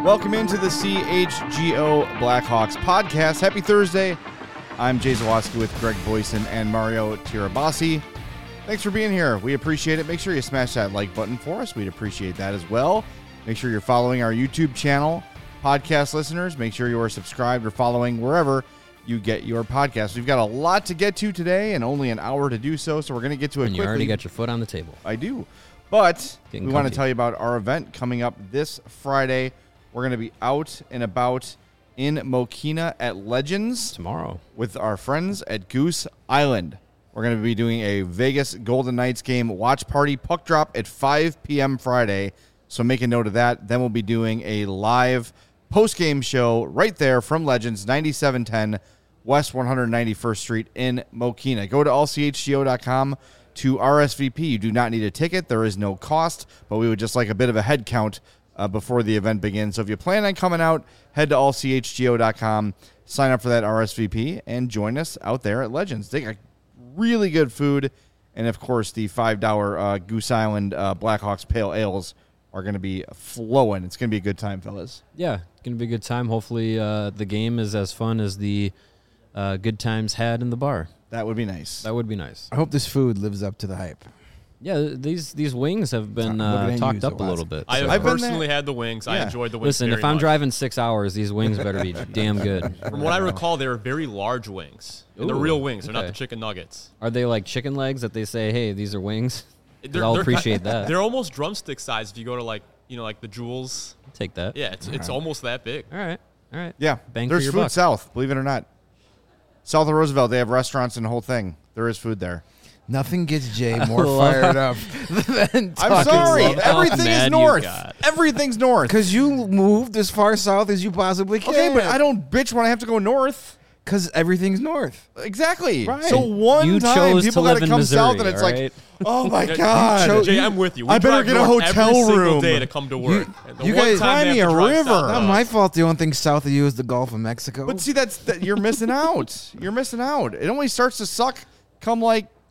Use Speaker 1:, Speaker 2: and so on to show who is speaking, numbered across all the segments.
Speaker 1: Welcome into the CHGO Blackhawks podcast. Happy Thursday. I'm Jay Zawaski with Greg Boyson and Mario Tirabassi. Thanks for being here. We appreciate it. Make sure you smash that like button for us. We'd appreciate that as well. Make sure you're following our YouTube channel. Podcast listeners, make sure you are subscribed or following wherever you get your podcast. We've got a lot to get to today and only an hour to do so we're going to get to it quickly.
Speaker 2: You already got your foot on the table.
Speaker 1: I do. But
Speaker 2: Getting
Speaker 1: we want to
Speaker 2: comfy.
Speaker 1: tell you about our event coming up this Friday. We're going to be out and about in Mokina at Legends
Speaker 2: Tomorrow.
Speaker 1: with our friends at Goose Island. We're going to be doing a Vegas Golden Knights game watch party puck drop at 5 p.m. Friday. So make a note of that. Then we'll be doing a live post-game show right there from Legends, 9710 West 191st Street in Mokina. Go to allchgo.com to RSVP. You do not need a ticket. There is no cost, but we would just like a bit of a head count before the event begins. So if you plan on coming out, head to allchgo.com, sign up for that RSVP, and join us out there at Legends. They got really good food, and of course the $5 Goose Island Blackhawks Pale Ales are going to be flowing. It's going to be a good time, fellas.
Speaker 2: Yeah, it's going to be a good time. Hopefully the game is as fun as the good times had in the bar.
Speaker 1: That would be nice.
Speaker 2: That would be nice.
Speaker 3: I hope this food lives up to the hype.
Speaker 2: Yeah, these wings have been
Speaker 3: What did I
Speaker 2: talked
Speaker 3: use
Speaker 2: up
Speaker 3: the
Speaker 2: a
Speaker 3: last-
Speaker 2: little bit.
Speaker 4: I
Speaker 2: so.
Speaker 4: have
Speaker 1: been
Speaker 4: personally
Speaker 1: there.
Speaker 4: had the wings. I
Speaker 1: Yeah.
Speaker 4: enjoyed the wings.
Speaker 2: Listen,
Speaker 4: very
Speaker 2: if I'm
Speaker 4: much.
Speaker 2: driving 6 hours, these wings better be damn good.
Speaker 4: From what I recall, they were very large wings. And they're
Speaker 2: Ooh,
Speaker 4: real wings. They're not
Speaker 2: okay.
Speaker 4: the chicken nuggets.
Speaker 2: Are they like chicken legs that they say, hey, these are wings? 'Cause
Speaker 4: They're-
Speaker 2: I'll
Speaker 4: they're-
Speaker 2: appreciate that.
Speaker 4: They're almost drumstick size if you go to like the Jewels.
Speaker 2: Take that.
Speaker 4: Yeah, it's almost that big.
Speaker 2: All right.
Speaker 1: Yeah,
Speaker 2: Bang for
Speaker 1: there's
Speaker 2: your
Speaker 1: food
Speaker 2: buck.
Speaker 1: south, believe it or not. South of Roosevelt, they have restaurants and the whole thing. There is food there.
Speaker 3: Nothing gets Jay more
Speaker 2: love
Speaker 3: fired up than
Speaker 1: I'm sorry.
Speaker 2: love how
Speaker 1: Everything's
Speaker 2: mad you
Speaker 1: north.
Speaker 2: got.
Speaker 1: Everything's north.
Speaker 3: because you moved as far south as you possibly can.
Speaker 1: Okay, but I don't bitch when I have to go north.
Speaker 3: because everything's north.
Speaker 1: Exactly.
Speaker 3: Right.
Speaker 1: So one
Speaker 2: You
Speaker 1: time
Speaker 2: chose to
Speaker 1: people
Speaker 2: live
Speaker 1: got to
Speaker 2: in
Speaker 1: come
Speaker 2: Missouri,
Speaker 1: south, and it's
Speaker 2: all
Speaker 1: like,
Speaker 2: right?
Speaker 1: oh my
Speaker 4: Yeah,
Speaker 1: god,
Speaker 4: Jay, I'm with you. We
Speaker 1: I better
Speaker 4: drive
Speaker 1: get a
Speaker 4: north
Speaker 1: hotel
Speaker 4: every single
Speaker 1: room.
Speaker 4: day to come to work. And the
Speaker 3: you
Speaker 4: one
Speaker 3: guys
Speaker 4: time
Speaker 1: find
Speaker 4: they
Speaker 1: me
Speaker 4: have
Speaker 1: a
Speaker 4: to drive
Speaker 1: river.
Speaker 4: south,
Speaker 3: Not my fault. The only thing south of you is the Gulf of Mexico.
Speaker 1: But see, that you're missing out. You're missing out. It only starts to suck come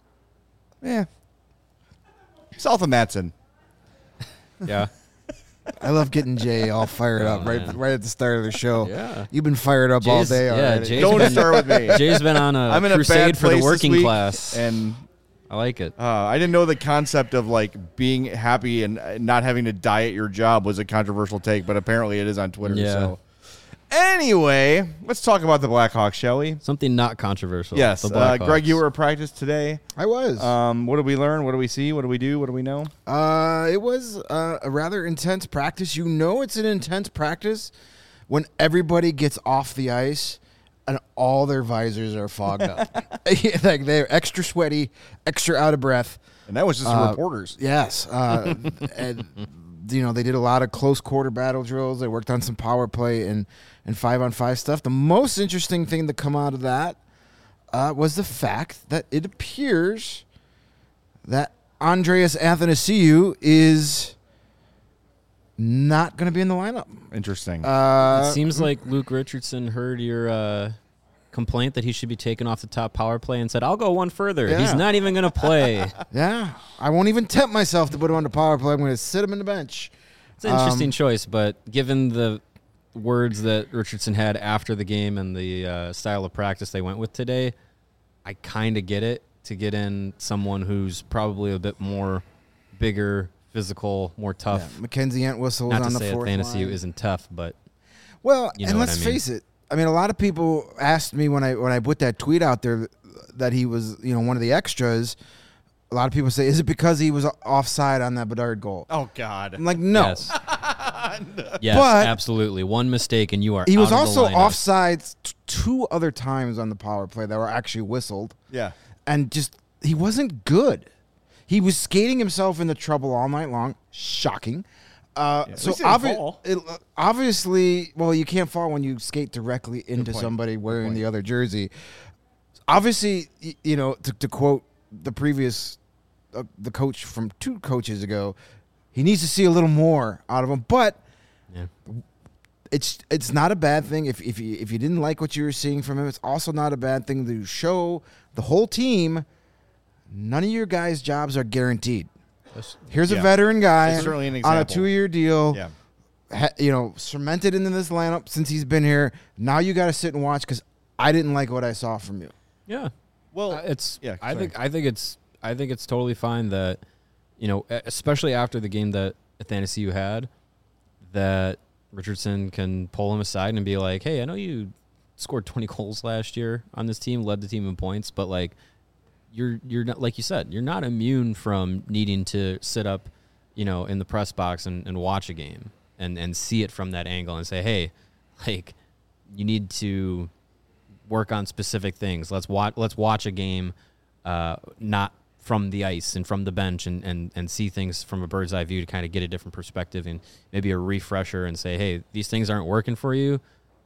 Speaker 1: south of Matson.
Speaker 2: Yeah.
Speaker 3: I love getting Jay all fired up
Speaker 2: man.
Speaker 3: right at the start of the show.
Speaker 2: Yeah.
Speaker 3: You've been fired up all
Speaker 2: Jay's-
Speaker 3: day
Speaker 2: yeah,
Speaker 3: already.
Speaker 2: Jay's
Speaker 1: Don't
Speaker 2: been-
Speaker 1: start with me.
Speaker 2: Jay's been on
Speaker 1: I'm in a bad
Speaker 2: crusade for
Speaker 1: place
Speaker 2: the
Speaker 1: this
Speaker 2: working
Speaker 1: week,
Speaker 2: class.
Speaker 1: and
Speaker 2: I like it.
Speaker 1: I didn't know the concept of being happy and not having to die at your job was a controversial take, but apparently it is on Twitter.
Speaker 2: Yeah.
Speaker 1: So anyway, let's talk about the Blackhawks, shall we?
Speaker 2: Something not controversial.
Speaker 1: Yes,
Speaker 2: The Blackhawks.
Speaker 1: Greg, you were at practice today.
Speaker 3: I was.
Speaker 1: What did we learn? What do we see? What do we do? What do we know?
Speaker 3: It was a rather intense practice. You know it's an intense practice when everybody gets off the ice and all their visors are fogged up. Like they're extra sweaty, extra out of breath.
Speaker 1: And that was just the reporters.
Speaker 3: Yes. And, they did a lot of close quarter battle drills. They worked on some power play and 5-on-5 stuff. The most interesting thing to come out of that was the fact that it appears that Andreas Athanasiou is not going to be in the lineup.
Speaker 1: Interesting.
Speaker 2: It seems like Luke Richardson heard your complaint that he should be taken off the top power play and said, I'll go one further.
Speaker 3: Yeah.
Speaker 2: He's not even going to play.
Speaker 3: Yeah. I won't even tempt myself to put him on the power play. I'm going to sit him in the bench.
Speaker 2: It's an interesting choice, but given the words that Richardson had after the game and the style of practice they went with today, I kind of get it to get in someone who's probably a bit more bigger, physical, more tough.
Speaker 3: Yeah. Mackenzie Entwistle was
Speaker 2: Not to
Speaker 3: on the
Speaker 2: say
Speaker 3: fourth
Speaker 2: Fantasy
Speaker 3: line.
Speaker 2: isn't tough, but
Speaker 3: Well,
Speaker 2: You know
Speaker 3: and
Speaker 2: what
Speaker 3: let's
Speaker 2: I mean.
Speaker 3: face it. I mean, a lot of people asked me when I put that tweet out there that he was, one of the extras. A lot of people say, is it because he was offside on that Bedard goal?
Speaker 1: oh, God.
Speaker 3: I'm like, no.
Speaker 2: yes. Yes,
Speaker 3: But-
Speaker 2: absolutely. One mistake and you are
Speaker 3: He was
Speaker 2: out of the
Speaker 3: also
Speaker 2: lineup.
Speaker 3: offside two other times on the power play that were actually whistled.
Speaker 1: Yeah.
Speaker 3: And just, he wasn't good. He was skating himself into trouble all night long. Shocking.
Speaker 1: at
Speaker 3: So
Speaker 1: least he didn't fall.
Speaker 3: obviously, well, you can't fall when you skate directly into
Speaker 1: point.
Speaker 3: somebody wearing
Speaker 1: point.
Speaker 3: the other jersey. Obviously, to quote the previous, the coach from 2 coaches ago, he needs to see a little more out of him. But
Speaker 2: Yeah.
Speaker 3: it's not a bad thing if you didn't like what you were seeing from him. It's also not a bad thing to show the whole team none of your guys' jobs are guaranteed. Here's a
Speaker 1: Yeah.
Speaker 3: veteran guy
Speaker 1: It's certainly an
Speaker 3: on a
Speaker 1: example.
Speaker 3: 2-year deal.
Speaker 1: Yeah.
Speaker 3: cemented into this lineup since he's been here. Now you got to sit and watch because I didn't like what I saw from you.
Speaker 2: Yeah.
Speaker 1: Well,
Speaker 2: I think it's totally fine that, especially after the game that Athanasiou had, that Richardson can pull him aside and be like, "Hey, I know you scored 20 goals last year on this team, led the team in points, but like you're not, like you said, you're not immune from needing to sit up, in the press box and watch a game and see it from that angle and say, hey, like you need to work on specific things. Let's watch a game, not from the ice and from the bench and see things from a bird's eye view to kind of get a different perspective and maybe a refresher and say, hey, these things aren't working for you.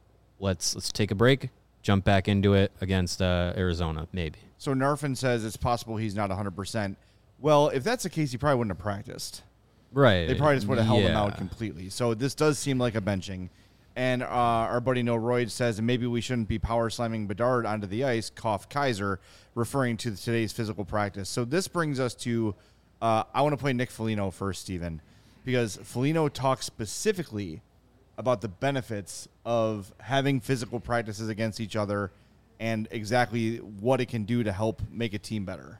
Speaker 2: Let's take a break, jump back into it against Arizona, maybe."
Speaker 1: So Narfin says it's possible he's not 100%. Well, if that's the case, he probably wouldn't have practiced.
Speaker 2: Right.
Speaker 1: They probably just would have held him out completely. So this does seem like a benching. And our buddy No Royd says maybe we shouldn't be power slamming Bedard onto the ice, cough Kaiser, referring to today's physical practice. So this brings us to I want to play Nick Foligno first, Steven, because Foligno talks specifically about the benefits of having physical practices against each other and exactly what it can do to help make a team better.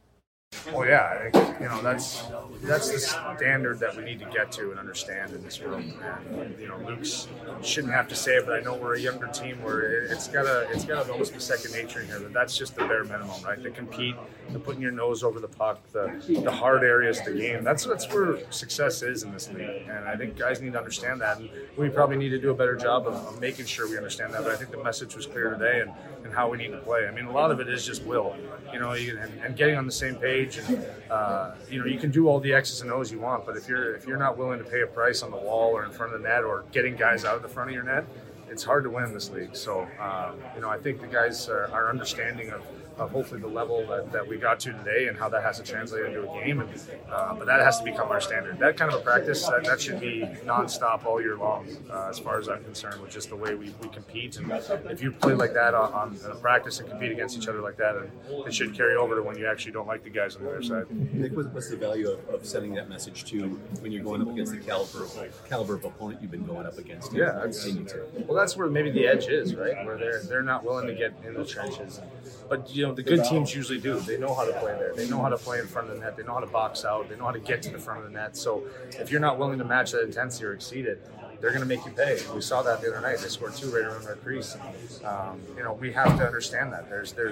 Speaker 5: Well, yeah, I think, that's the standard that we need to get to and understand in this room. And Luke's shouldn't have to say it, but I know we're a younger team where it's gotta almost be second nature in here. That's just the bare minimum, right? To compete, the putting your nose over the puck, the hard areas of the game. That's where success is in this league, and I think guys need to understand that. And we probably need to do a better job of making sure we understand that. But I think the message was clear today, and how we need to play. I mean, a lot of it is just will, and getting on the same page. And you can do all the X's and O's you want, but if you're not willing to pay a price on the wall or in front of the net or getting guys out of the front of your net, it's hard to win this league. So, I think the guys are understanding of hopefully the level that we got to today and how that has to translate into a game. And, but that has to become our standard. That kind of a practice, that should be nonstop all year long, as far as I'm concerned, with just the way we compete. And if you play like that on a practice and compete against each other like that, it should carry over to when you actually don't like the guys on the other side.
Speaker 6: Nick, what's the value of sending that message to when you're going up against the caliber of opponent you've been going up against?
Speaker 5: Yeah, that's where maybe the edge is, right? Where they're not willing to get in the trenches. But the good teams usually do. They know how to play there. They know how to play in front of the net. They know how to box out. They know how to get to the front of the net. So if you're not willing to match that intensity or exceed it, they're going to make you pay. We saw that the other night. They scored 2 right around our crease. We have to understand that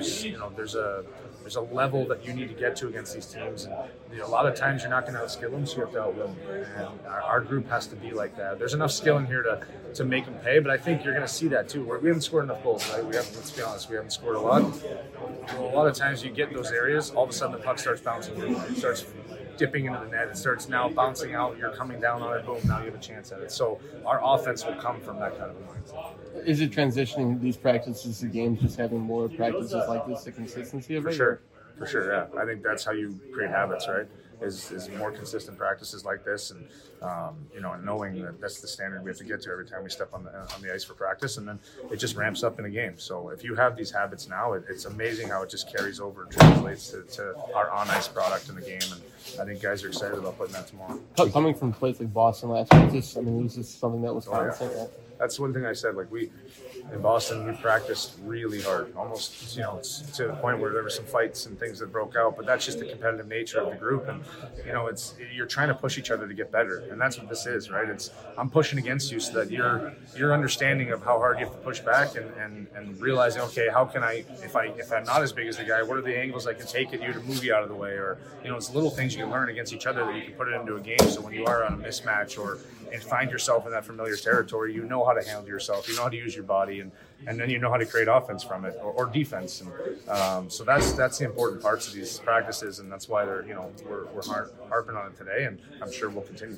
Speaker 5: there's a level that you need to get to against these teams. And a lot of times you're not going to outskill them, so you have to outwill them. And our group has to be like that. There's enough skill in here to make them pay, but I think you're going to see that too. We haven't scored enough goals, right? Let's be honest, we haven't scored a lot. Well, a lot of times you get in those areas, all of a sudden the puck starts bouncing. It starts dipping into the net. It starts now bouncing out. You're coming down on it. Boom, now you have a chance at it. So our offense will come from that kind of a mindset.
Speaker 7: Is it transitioning these practices to games, just having more practices like this, the consistency of it?
Speaker 5: For sure, yeah. I think that's how you create habits, right? Is more consistent practices like this, and knowing that that's the standard we have to get to every time we step on the ice for practice, and then it just ramps up in a game. So if you have these habits now, it's amazing how it just carries over and translates to our on-ice product in the game, and I think guys are excited about putting that tomorrow.
Speaker 7: Coming from a place like Boston last week, was this something that was constant?
Speaker 5: Yeah. That's one thing I said. Like in Boston, we practiced really hard, almost to the point where there were some fights and things that broke out. But that's just the competitive nature of the group, and you're trying to push each other to get better, and that's what this is, right? I'm pushing against you so that your understanding of how hard you have to push back and realizing, okay, how can I, if I'm not as big as the guy, what are the angles I can take at you to move you out of the way, or it's little things you can learn against each other that you can put it into a game. So when you are on a mismatch and find yourself in that familiar territory, you know how to handle yourself, you know how to use your body, and then you know how to create offense from it or defense. And so that's the important parts of these practices, and that's why we're harping on it today, and I'm sure we'll continue.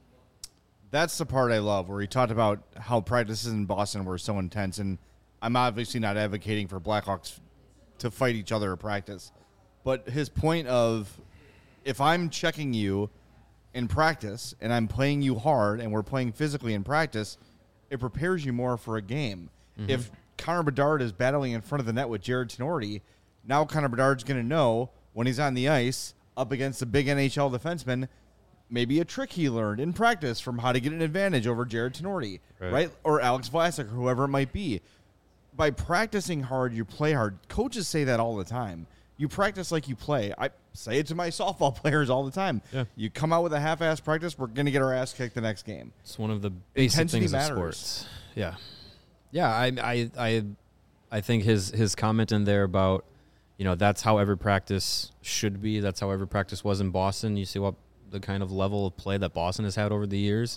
Speaker 1: That's the part I love, where he talked about how practices in Boston were so intense, and I'm obviously not advocating for Blackhawks to fight each other at practice, but his point of, if I'm checking you in practice and I'm playing you hard and we're playing physically in practice, it prepares you more for a game. Mm-hmm. If Connor Bedard is battling in front of the net with Jared Tenorti, now Connor Bedard's going to know when he's on the ice up against a big NHL defenseman, maybe a trick he learned in practice from how to get an advantage over Jared Tenorti, right? Or Alex Vlasic or whoever it might be. By practicing hard, you play hard. Coaches say that all the time. You practice like you play. I say it to my softball players all the time.
Speaker 2: Yeah.
Speaker 1: You come out with a half-ass practice, we're going to get our ass kicked the next game.
Speaker 2: It's one of the basic
Speaker 1: Intensity
Speaker 2: things
Speaker 1: matters.
Speaker 2: of sports. Yeah. Yeah, I think his comment in there about, that's how every practice should be. That's how every practice was in Boston. You see what the kind of level of play that Boston has had over the years.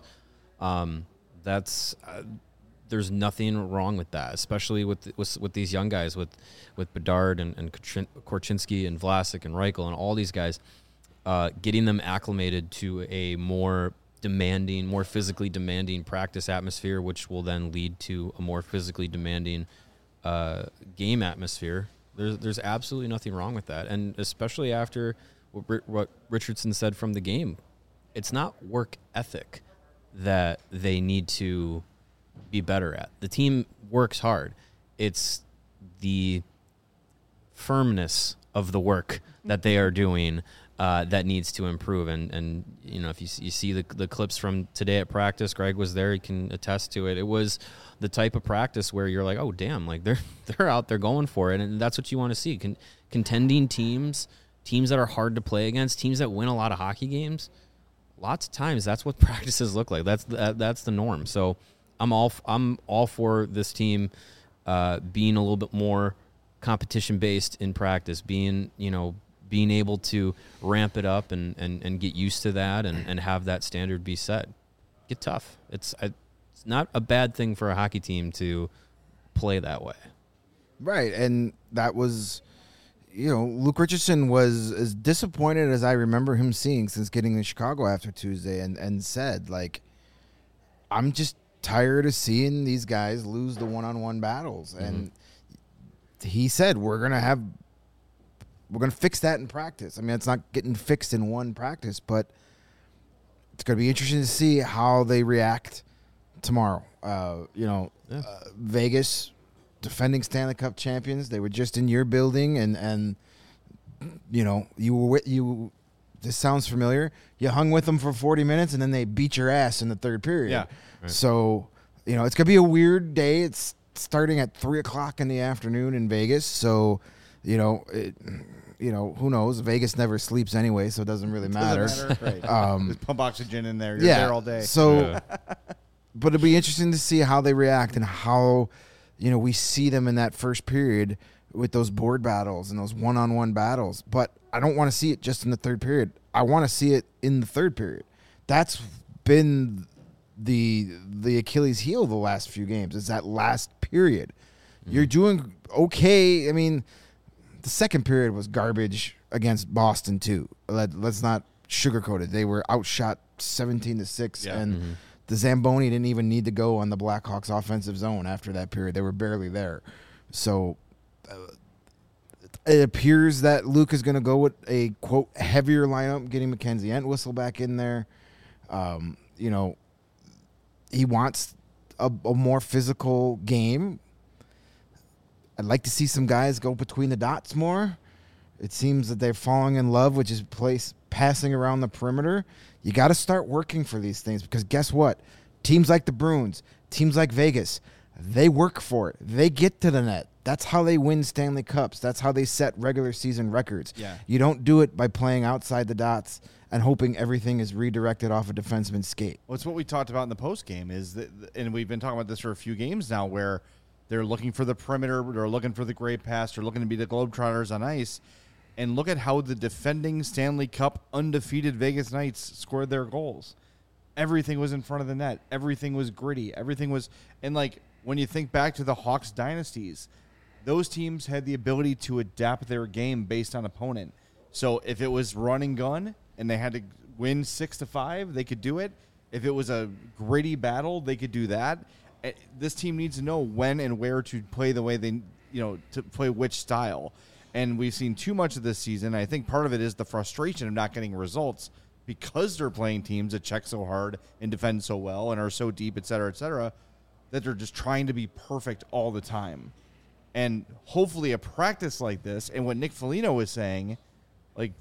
Speaker 2: There's nothing wrong with that, especially with these young guys, with Bedard and Korchinski and Vlasic and Reichel and all these guys, getting them acclimated to a more physically demanding practice atmosphere, which will then lead to a more physically demanding game atmosphere. There's absolutely nothing wrong with that, and especially after what Richardson said from the game, it's not work ethic that they need to be better at. The team works hard. It's the firmness of the work that they are doing that needs to improve. And if you see the clips from today at practice, Greg was there. He can attest to it. It was the type of practice where you're like, oh damn, like they're out there going for it, and that's what you want to see. Contending teams that are hard to play against, teams that win a lot of hockey games. Lots of times, that's what practices look like. That's the norm. So I'm all for this team being a little bit more competition based in practice, being able to ramp it up and get used to that and have that standard be set. Get tough. It's not a bad thing for a hockey team to play that way.
Speaker 3: Right, and that was, Luke Richardson was as disappointed as I remember him seeing since getting to Chicago after Tuesday, and said, like, I'm just tired of seeing these guys lose the one-on-one battles. Mm-hmm. And he said, we're gonna fix that in practice. I mean, it's not getting fixed in one practice, but it's gonna be interesting to see how they react tomorrow. Vegas, defending Stanley Cup champions, they were just in your building, and you. This sounds familiar. You hung with them for 40 minutes, and then they beat your ass in the third period.
Speaker 1: Yeah.
Speaker 2: Right.
Speaker 3: So, it's going to be a weird day. It's starting at 3 o'clock in the afternoon in Vegas. So, who knows? Vegas never sleeps anyway, so it doesn't really matter.
Speaker 1: Right. Just pump oxygen in there. You're there all day.
Speaker 3: So, but it'll be interesting to see how they react and how, we see them in that first period with those board battles and those one-on-one battles. But I don't want to see it just in the third period. I want to see it in the third period. That's been the Achilles heel the last few games, is that last period. Mm-hmm. You're doing okay. I mean, the second period was garbage against Boston too. Let's not sugarcoat it. They were outshot 17-6, and the Zamboni didn't even need to go on the Blackhawks offensive zone after that period. They were barely there. So it appears that Luke is going to go with a, quote, heavier lineup, getting Mackenzie Entwistle back in there. He wants a more physical game. I'd like to see some guys go between the dots more. It seems that they're falling in love with just passing around the perimeter. You got to start working for these things, because guess what? Teams like the Bruins, teams like Vegas, they work for it. They get to the net. That's how they win Stanley Cups. That's how they set regular season records.
Speaker 1: Yeah.
Speaker 3: You don't do it by playing outside the dots and hoping everything is redirected off a defenseman's skate.
Speaker 1: Well, it's what we talked about in the post game, is that, and we've been talking about this for a few games now, where they're looking for the perimeter, they're looking for the great pass, they're looking to be the Globetrotters on ice. And look at how the defending Stanley Cup undefeated Vegas Knights scored their goals. Everything was in front of the net. Everything was gritty. Everything was, and like when you think back to the Hawks dynasties, those teams had the ability to adapt their game based on opponent. So if it was run and gun and they had to win 6-5, they could do it. If it was a gritty battle, they could do that. This team needs to know when and where to play the way they, to play which style. And we've seen too much of this season. I think part of it is the frustration of not getting results because they're playing teams that check so hard and defend so well and are so deep, et cetera, that they're just trying to be perfect all the time. And hopefully a practice like this, and what Nick Foligno was saying, like,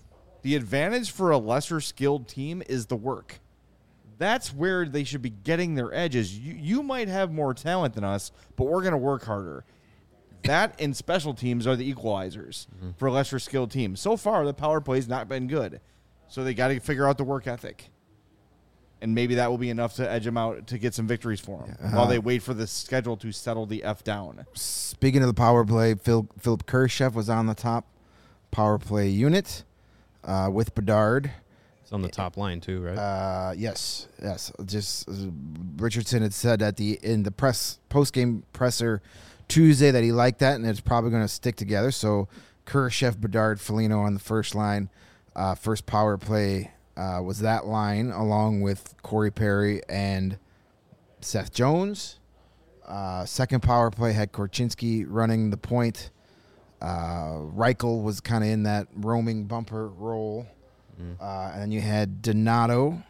Speaker 1: The advantage for a lesser skilled team is the work. That's where they should be getting their edges. You might have more talent than us, but we're going to work harder. That and special teams are the equalizers for lesser skilled teams. So far, the power play's not been good. So they got to figure out the work ethic. And maybe that will be enough to edge them out to get some victories for them while they wait for the schedule to settle the F down.
Speaker 3: Speaking of the power play, Philip Kurashev was on the top power play unit with Bedard.
Speaker 2: It's on the top line too, right?
Speaker 3: Yes. Just Richardson had said in the post game presser Tuesday that he liked that, and it's probably going to stick together. So Kurashev, Bedard, Foligno on the first line, first power play. Was that line along with Corey Perry and Seth Jones. Second power play had Korchinski running the point. Reichel was kind of in that roaming bumper role. And then you had Donato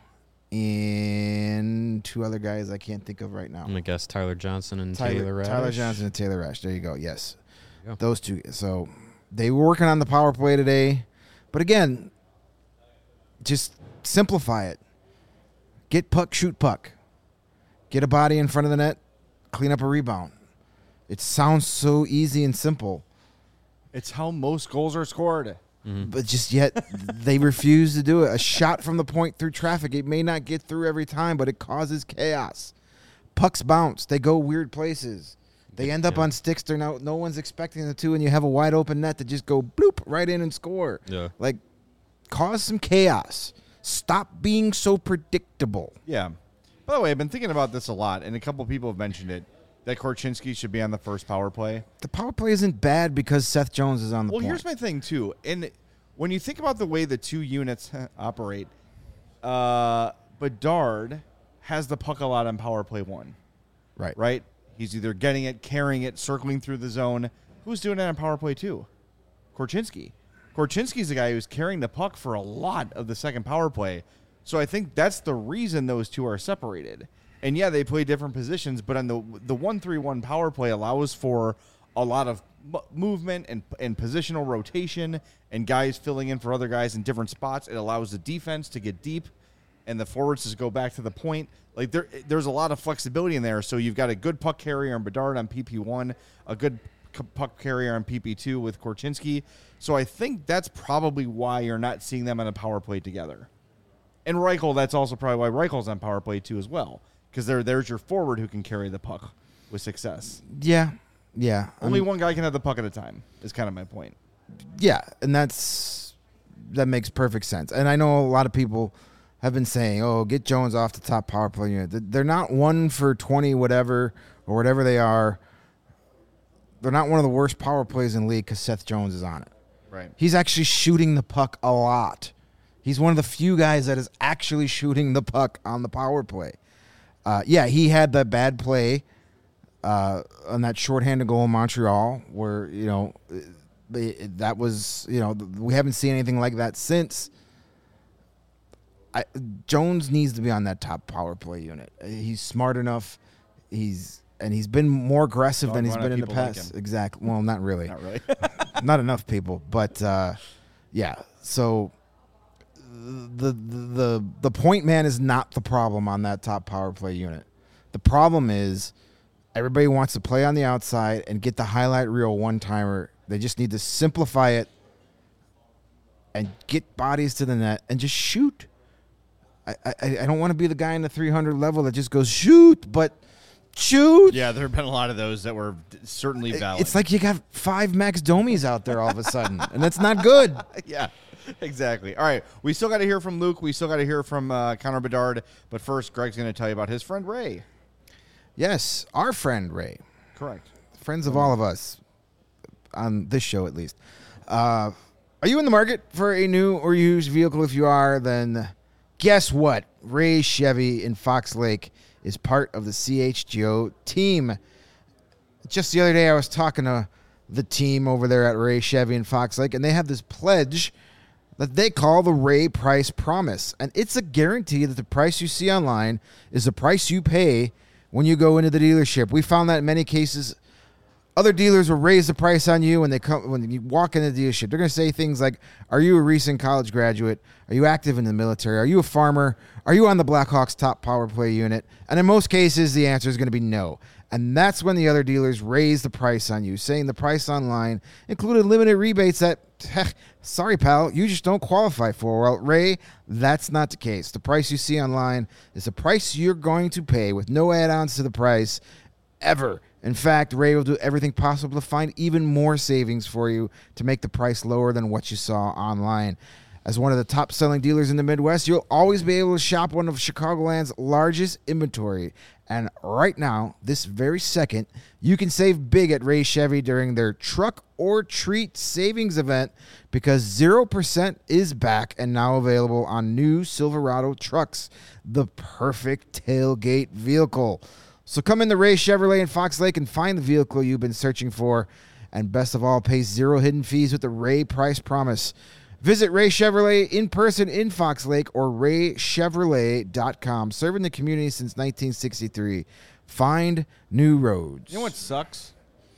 Speaker 3: and two other guys I can't think of right now.
Speaker 2: I'm going to guess Tyler Johnson and Taylor Radish.
Speaker 3: Tyler Johnson and Taylor Rash. There you go. Yes.
Speaker 2: There you go.
Speaker 3: Those two. So they were working on the power play today. But again, just simplify it. Get puck, shoot puck. Get a body in front of the net, clean up a rebound. It sounds so easy and simple.
Speaker 1: It's how most goals are scored.
Speaker 3: But just yet they refuse to do it. A shot from the point through traffic, it may not get through every time, but it causes chaos. Pucks bounce. They go weird places. They end up on sticks they're no one's expecting them to, and you have a wide open net to just go bloop right in and score.
Speaker 2: Yeah.
Speaker 3: Like, cause some chaos. Stop being so predictable.
Speaker 1: Yeah. By the way, I've been thinking about this a lot, and a couple people have mentioned it, that Korchinski should be on the first power play.
Speaker 3: The power play isn't bad because Seth Jones is on the point.
Speaker 1: Well, here's my thing, too. And when you think about the way the two units operate, Bedard has the puck a lot on power play one. Right? He's either getting it, carrying it, circling through the zone. Who's doing that on power play two? Korchinski. Korchinski's the guy who's carrying the puck for a lot of the second power play. So I think that's the reason those two are separated. And yeah, they play different positions, but on the 1-3-1 power play allows for a lot of movement and positional rotation and guys filling in for other guys in different spots. It allows the defense to get deep and the forwards to go back to the point. Like there's a lot of flexibility in there. So you've got a good puck carrier on Bedard on PP1, a good puck carrier on PP2 with Korchinski. So I think that's probably why you're not seeing them on a power play together. And Reichel, that's also probably why Reichel's on power play too as well. Because there's your forward who can carry the puck with success.
Speaker 3: Yeah.
Speaker 1: Only one guy can have the puck at a time is kind of my point.
Speaker 3: Yeah, and that makes perfect sense. And I know a lot of people have been saying, oh, get Jones off the top power play unit. They're not 1 for 20 whatever or whatever they are. They're not one of the worst power plays in the league because Seth Jones is on it.
Speaker 1: Right.
Speaker 3: He's actually shooting the puck a lot. He's one of the few guys that is actually shooting the puck on the power play. He had that bad play on that shorthanded goal in Montreal where, that was, we haven't seen anything like that since. Jones needs to be on that top power play unit. He's smart enough. He's been more aggressive than he's been in the past. Exactly. Well, not really.
Speaker 1: Not really.
Speaker 3: Not enough people. But, so the point man is not the problem on that top power play unit. The problem is everybody wants to play on the outside and get the highlight reel one-timer. They just need to simplify it and get bodies to the net and just shoot. I don't want to be the guy in the 300 level that just goes, shoot, but shoot.
Speaker 1: Yeah, there have been a lot of those that were certainly valid.
Speaker 3: It's like you got 5 Max Domis out there all of a sudden, and that's not good.
Speaker 1: Yeah, exactly. All right, we still got to hear from Luke. We still got to hear from Connor Bedard. But first, Greg's going to tell you about his friend Ray.
Speaker 3: Yes, our friend Ray.
Speaker 1: Correct.
Speaker 3: Friends of all of us, on this show at least. Are you in the market for a new or used vehicle? If you are, then guess what? Ray Chevy in Fox Lake is part of the CHGO team. Just the other day, I was talking to the team over there at Ray Chevy in Fox Lake, and they have this pledge that they call the Ray Price Promise. And it's a guarantee that the price you see online is the price you pay when you go into the dealership. We found that in many cases Other dealers will raise the price on you when you walk in the dealership. They're going to say things like, are you a recent college graduate? Are you active in the military? Are you a farmer? Are you on the Blackhawks top power play unit? And in most cases, the answer is going to be no. And that's when the other dealers raise the price on you, saying the price online included limited rebates that, sorry, pal, you just don't qualify for. Well, Ray, that's not the case. The price you see online is the price you're going to pay with no add-ons to the price ever. In fact, Ray will do everything possible to find even more savings for you to make the price lower than what you saw online. As one of the top-selling dealers in the Midwest, you'll always be able to shop one of Chicagoland's largest inventory. And right now, this very second, you can save big at Ray Chevy during their Truck or Treat Savings event because 0% is back and now available on new Silverado trucks, the perfect tailgate vehicle. So come in the Ray Chevrolet in Fox Lake and find the vehicle you've been searching for. And best of all, pay zero hidden fees with the Ray Price Promise. Visit Ray Chevrolet in person in Fox Lake or raychevrolet.com. Serving the community since 1963. Find new roads.
Speaker 1: You know what sucks?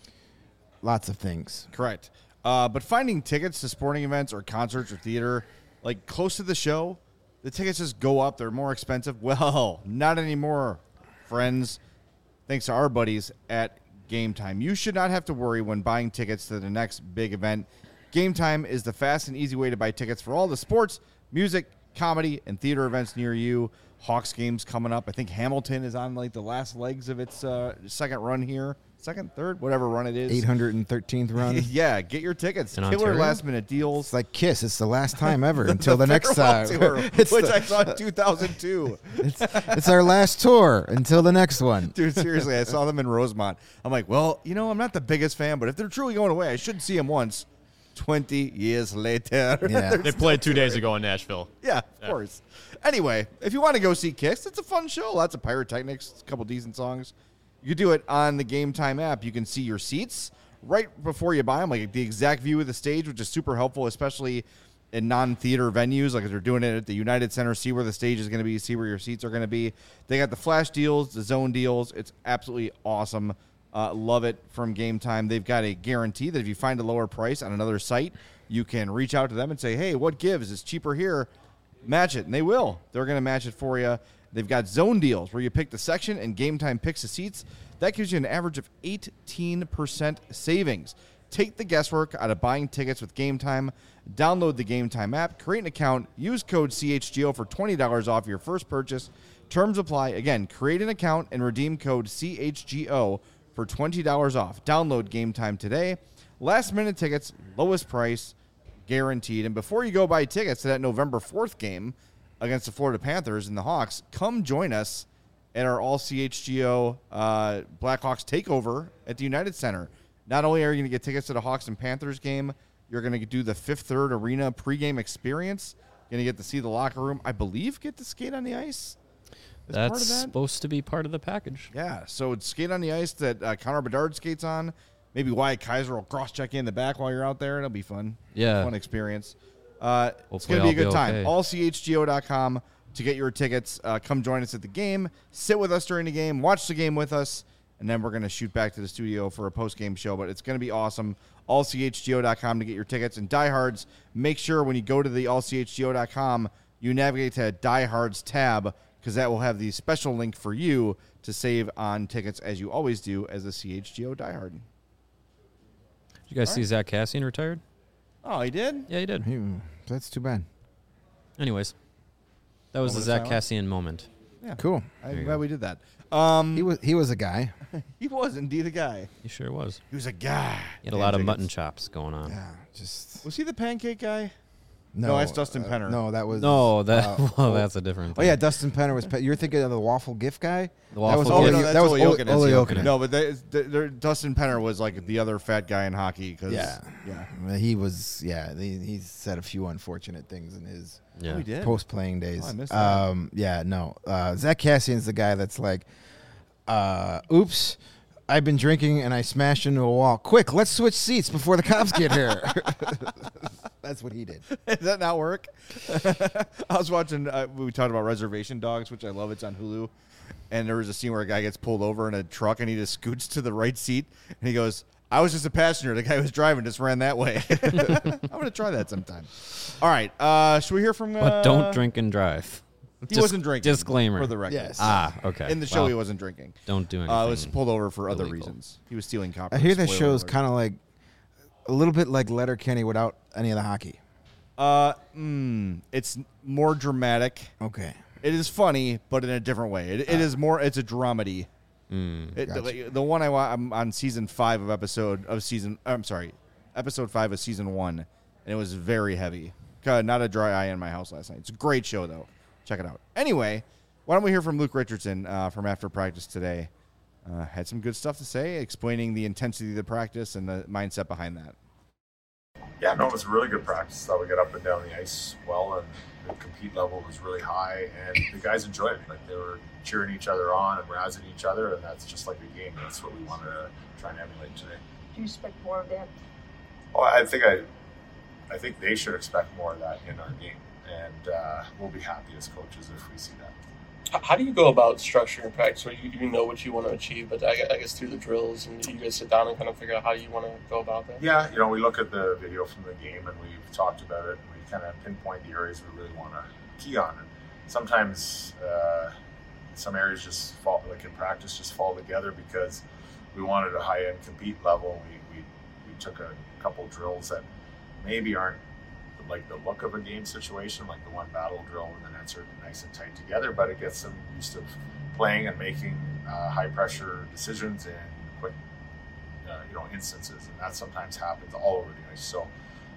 Speaker 3: Lots of things.
Speaker 1: Correct. But finding tickets to sporting events or concerts or theater, like close to the show, the tickets just go up. They're more expensive. Well, not anymore, friends. Thanks to our buddies at Game Time. You should not have to worry when buying tickets to the next big event. Game Time is the fast and easy way to buy tickets for all the sports, music, comedy, and theater events near you. Hawks games coming up. I think Hamilton is on like the last legs of its second run here. Second, third, whatever run it is.
Speaker 3: 813th run.
Speaker 1: Yeah, get your tickets.
Speaker 2: In
Speaker 1: Killer
Speaker 2: Ontario?
Speaker 1: last-minute deals.
Speaker 3: It's like Kiss. It's the last time ever until the next
Speaker 1: Farewell
Speaker 3: time.
Speaker 1: Tour,
Speaker 3: It's
Speaker 1: which
Speaker 3: the-
Speaker 1: I saw in 2002.
Speaker 3: It's our last tour until the next one.
Speaker 1: Dude, seriously, I saw them in Rosemont. I'm like, well, you know, I'm not the biggest fan, but if they're truly going away, I should see them once. 20 years later.
Speaker 3: Yeah.
Speaker 4: They played 2 days ago in Nashville.
Speaker 1: Yeah, of course. Anyway, if you want to go see Kiss, it's a fun show. Lots of pyrotechnics, a couple decent songs. You can do it on the Game Time app. You can see your seats right before you buy them, like the exact view of the stage, which is super helpful, especially in non-theater venues. Like if they're doing it at the United Center, see where the stage is going to be, see where your seats are going to be. They got the flash deals, the zone deals. It's absolutely awesome. Love it from Game Time. They've got a guarantee that if you find a lower price on another site, you can reach out to them and say, hey, what gives? It's cheaper here. Match it. And they will. They're going to match it for you. They've got zone deals where you pick the section and Game Time picks the seats. That gives you an average of 18% savings. Take the guesswork out of buying tickets with Game Time. Download the Game Time app, create an account, use code CHGO for $20 off your first purchase. Terms apply. Again, create an account and redeem code CHGO for $20 off. Download Game Time today. Last minute tickets, lowest price, guaranteed. And before you go buy tickets to that November 4th game against the Florida Panthers and the Hawks, come join us at our all CHGO Blackhawks takeover at the United Center. Not only are you going to get tickets to the Hawks and Panthers game, you're going to do the Fifth Third Arena pregame experience. You're going to get to see the locker room. I believe get to skate on the ice. as part of
Speaker 2: That's
Speaker 1: that?
Speaker 2: supposed to be part of the package.
Speaker 1: Yeah, so it's skate on the ice that Connor Bedard skates on. Maybe Wyatt Kaiser will cross-check you in the back while you're out there. It'll be fun.
Speaker 2: Yeah.
Speaker 1: Fun experience. It's
Speaker 2: Hopefully
Speaker 1: going to be a
Speaker 2: I'll
Speaker 1: good time.
Speaker 2: okay.
Speaker 1: AllCHGO.com to get your tickets. Come join us at the game. Sit with us during the game. Watch the game with us. And then we're going to shoot back to the studio for a post-game show. But it's going to be awesome. AllCHGO.com to get your tickets. And diehards, make sure when you go to the AllCHGO.com, you navigate to Diehards tab, because that will have the special link for you to save on tickets, as you always do as a CHGO diehard.
Speaker 2: Did you guys see Zach Cassian retired?
Speaker 1: Oh, he did?
Speaker 2: Yeah, he did.
Speaker 3: That's too bad.
Speaker 2: Anyways, that was the
Speaker 1: Moment of
Speaker 2: Zach
Speaker 1: silence?
Speaker 2: Cassian moment.
Speaker 1: Yeah.
Speaker 3: Cool.
Speaker 1: I'm glad we did that.
Speaker 3: He was a guy.
Speaker 1: He was indeed a guy.
Speaker 2: He sure was.
Speaker 1: He was a guy.
Speaker 2: He had a lot of mutton chops going on.
Speaker 3: Yeah, just
Speaker 1: Was he the pancake guy?
Speaker 3: no.
Speaker 1: No, that's Dustin Penner.
Speaker 3: No, that was
Speaker 2: No, that well, that's a different
Speaker 3: Oh
Speaker 2: thing.
Speaker 3: yeah, Dustin Penner was. You're thinking of the waffle gift guy.
Speaker 2: The
Speaker 3: That was
Speaker 2: waffle
Speaker 3: Ole-
Speaker 2: gift.
Speaker 1: no, that's
Speaker 3: that was
Speaker 1: Ole
Speaker 3: Ole-
Speaker 1: Jokinen.
Speaker 3: Ole Jokinen.
Speaker 1: No, but Dustin Penner was like the other fat guy in hockey. Cause,
Speaker 3: Yeah.
Speaker 1: Yeah.
Speaker 3: He was. Yeah, he said a few unfortunate things in his
Speaker 2: Yeah.
Speaker 1: Oh, he did?
Speaker 3: post-playing days.
Speaker 1: Oh, I missed that.
Speaker 3: Yeah, no. Zach Cassian's the guy that's like, oops, I've been drinking and I smashed into a wall. Quick, let's switch seats before the cops get here. That's what he did.
Speaker 1: Does that not work? I was watching, we talked about Reservation Dogs, which I love. It's on Hulu. And there was a scene where a guy gets pulled over in a truck and he just scoots to the right seat and he goes, I was just a passenger. The guy who was driving just ran that way. I'm going to try that sometime. All right. Should we hear from...
Speaker 2: But don't drink and drive.
Speaker 1: He wasn't drinking.
Speaker 2: Disclaimer.
Speaker 1: For the record.
Speaker 3: Yes.
Speaker 2: Okay.
Speaker 1: In the show, he wasn't drinking.
Speaker 2: Don't do anything.
Speaker 1: Was pulled over for other
Speaker 2: illegal.
Speaker 1: reasons. He was stealing copper.
Speaker 3: I hear that
Speaker 1: Spoiler
Speaker 3: show's
Speaker 1: alert.
Speaker 3: kind of like a little bit like Letterkenny without any of the hockey.
Speaker 1: It's more dramatic.
Speaker 3: Okay.
Speaker 1: It is funny, but in a different way. It is more. It's a dramedy. The one I'm on season 5 of episode 5 of season 1, and it was very heavy. Not a dry eye in my house last night. It's a great show though. Check it out. Anyway, why don't we hear from Luke Richardson from after practice today? Had some good stuff to say, explaining the intensity of the practice and the mindset behind that.
Speaker 5: Yeah, no, it was a really good practice. Thought we got up and down the ice well, and the compete level was really high, and the guys enjoyed it. Like, they were cheering each other on and razzing each other, and that's just like a game. That's what we wanted to try and emulate today.
Speaker 8: Do you expect more of that?
Speaker 5: Well, I think they should expect more of that in our game, and we'll be happy as coaches if we see that.
Speaker 7: How do you go about structuring practice where you know what you want to achieve, but I guess through the drills and you guys sit down and kind of figure out how you want to go about that?
Speaker 5: Yeah, we look at the video from the game and we've talked about it, and we kind of pinpoint the areas we really want to key on. And sometimes some areas just fall, like in practice, just fall together because we wanted a high-end compete level. We took a couple drills that maybe aren't like the look of a game situation, like the one battle drill when the nets are nice and tight together, but it gets them used to playing and making high pressure decisions in quick instances, and that sometimes happens all over the ice. So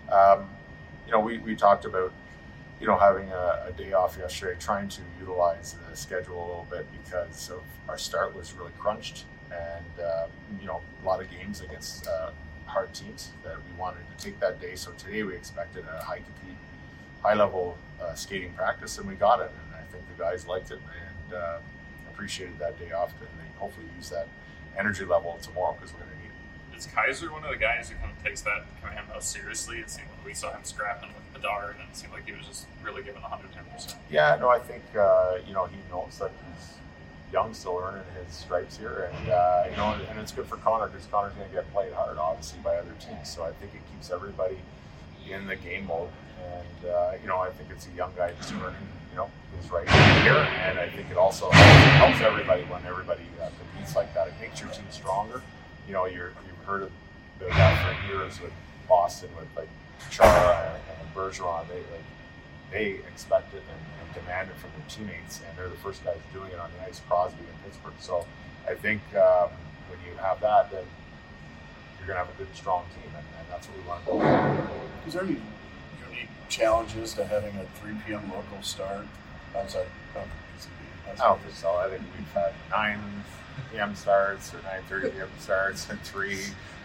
Speaker 5: we talked about having a day off yesterday, trying to utilize the schedule a little bit because of our start was really crunched, and a lot of games against hard teams that we wanted to take that day. So today we expected a high level skating practice, and we got it. And I think the guys liked it and appreciated that day off, and they hopefully use that energy level tomorrow because we're going to need it.
Speaker 9: Is Kaiser one of the guys who kind of takes that command most seriously? It seemed like we saw him scrapping with Bedard, and it seemed like he was just really giving 110%.
Speaker 5: Yeah, no, I think he knows that he's young, still learning his stripes here, and and it's good for Connor because Connor's going to get played hard, obviously, by other teams. So I think it keeps everybody in the game mode, and I think it's a young guy just learning, his right here, and I think it also helps everybody when everybody competes like that. It makes your team stronger. You've heard of that for years with Boston, with like Chara and Bergeron. They expect it and demand it from their teammates, and they're the first guys doing it on the ice, Crosby and Pittsburgh. So I think when you have that, then you're going to have a good, strong team, and that's what we want to go.
Speaker 10: Is there any unique challenges to having a 3 p.m. local start outside of
Speaker 5: I don't think so. I think we've had 9 p.m. starts or 9:30 p.m. starts and 3.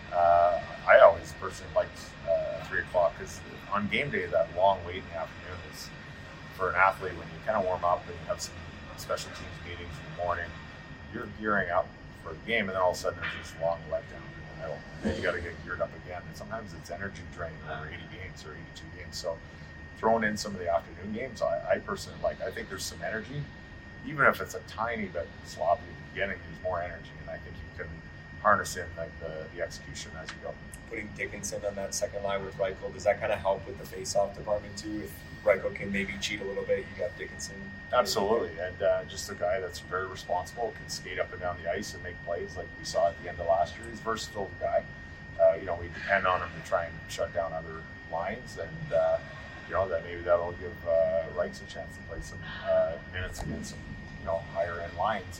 Speaker 5: I always personally liked 3 o'clock because on game day, that long wait in the afternoon is, for an athlete, when you kind of warm up and you have some special teams meetings in the morning, you're gearing up for the game, and then all of a sudden there's this long letdown in the middle. And then you got to get geared up again. And sometimes it's energy draining over 80 games or 82 games. So throwing in some of the afternoon games, I personally like. I think there's some energy. Even if it's a tiny bit sloppy at the beginning, there's more energy, and I think you can harness in like the execution as you go.
Speaker 11: Putting Dickinson on that second line with Reichel, does that kind of help with the face-off department too? If Reichel can maybe cheat a little bit, you got Dickinson.
Speaker 5: Absolutely, and just a guy that's very responsible, can skate up and down the ice and make plays like we saw at the end of last year. He's a versatile guy. We depend on him to try and shut down other lines, and that maybe that'll give Reichel a chance to play some minutes against some higher end lines,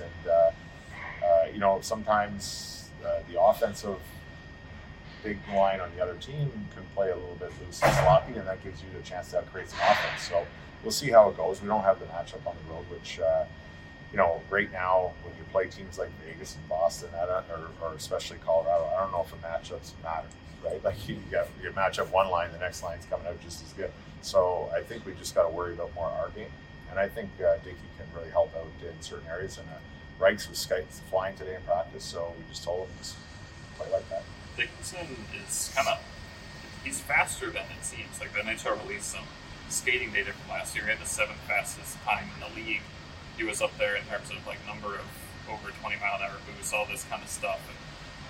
Speaker 5: and sometimes the offensive big line on the other team can play a little bit loose and sloppy, and that gives you the chance to create some offense. So we'll see how it goes. We don't have the matchup on the road, which right now when you play teams like Vegas and Boston, or especially Colorado, I don't know if the matchups matter, right? Like you match up one line, the next line's coming out just as good. So I think we just got to worry about more our game, and I think Dickey can really help out in certain areas. And Reichs was flying today in practice, so we just told him just play like that.
Speaker 9: Dickinson is he's faster than it seems. Like the NHL released some skating data from last year. He had the 7th fastest time in the league. He was up there in terms of like number of over 20-mile-an-hour boosts, all this kind of stuff.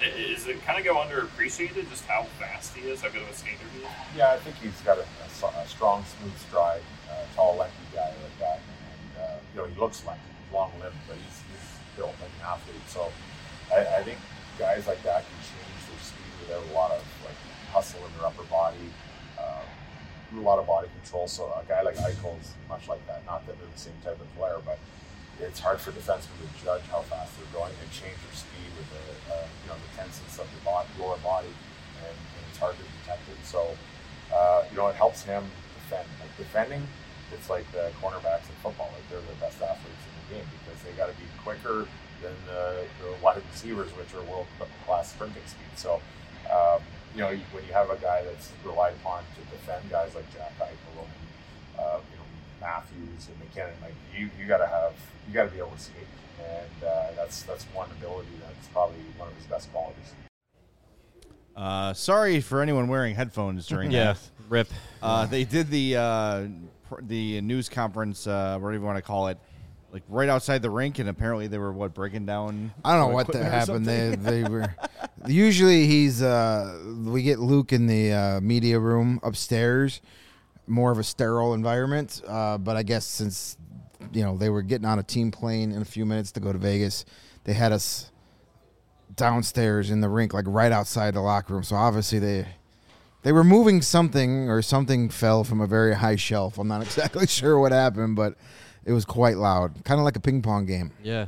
Speaker 9: Is it kind of go underappreciated just how fast he is, how good of a skater he is?
Speaker 8: Yeah, I think he's got a strong, smooth stride, tall, lanky guy like that. And, he looks lanky, long-limbed, but he's built like an athlete. So I think guys like that can change their speed without a lot of hustle in their upper body, a lot of body control. So a guy like Eichel's much like that. Not that they're the same type of player, but it's hard for defensemen to judge how fast they're going and change their speed with the tenseness of the lower body, and it's hard to detect it. So it helps him defend. Like defending, it's like the cornerbacks in football. Like they're the best athletes in the game because they got to be quicker than the wide receivers, which are world-class sprinting speed. So when you have a guy that's relied upon to defend guys like Jack Eichel and Matthews and McKinnon, you got to be able to skate, and that's one ability that's probably one of his best qualities.
Speaker 1: Sorry for anyone wearing headphones during that.
Speaker 2: Rip.
Speaker 1: They did the news conference, whatever you want to call it, like right outside the rink, and apparently they were breaking down.
Speaker 3: I don't know what happened. They were usually we get Luke in the media room upstairs, more of a sterile environment. But I guess since they were getting on a team plane in a few minutes to go to Vegas, they had us downstairs in the rink, like right outside the locker room. So obviously they were moving something, or something fell from a very high shelf. I'm not exactly sure what happened, but it was quite loud, kind of like a ping pong game.
Speaker 2: Yeah.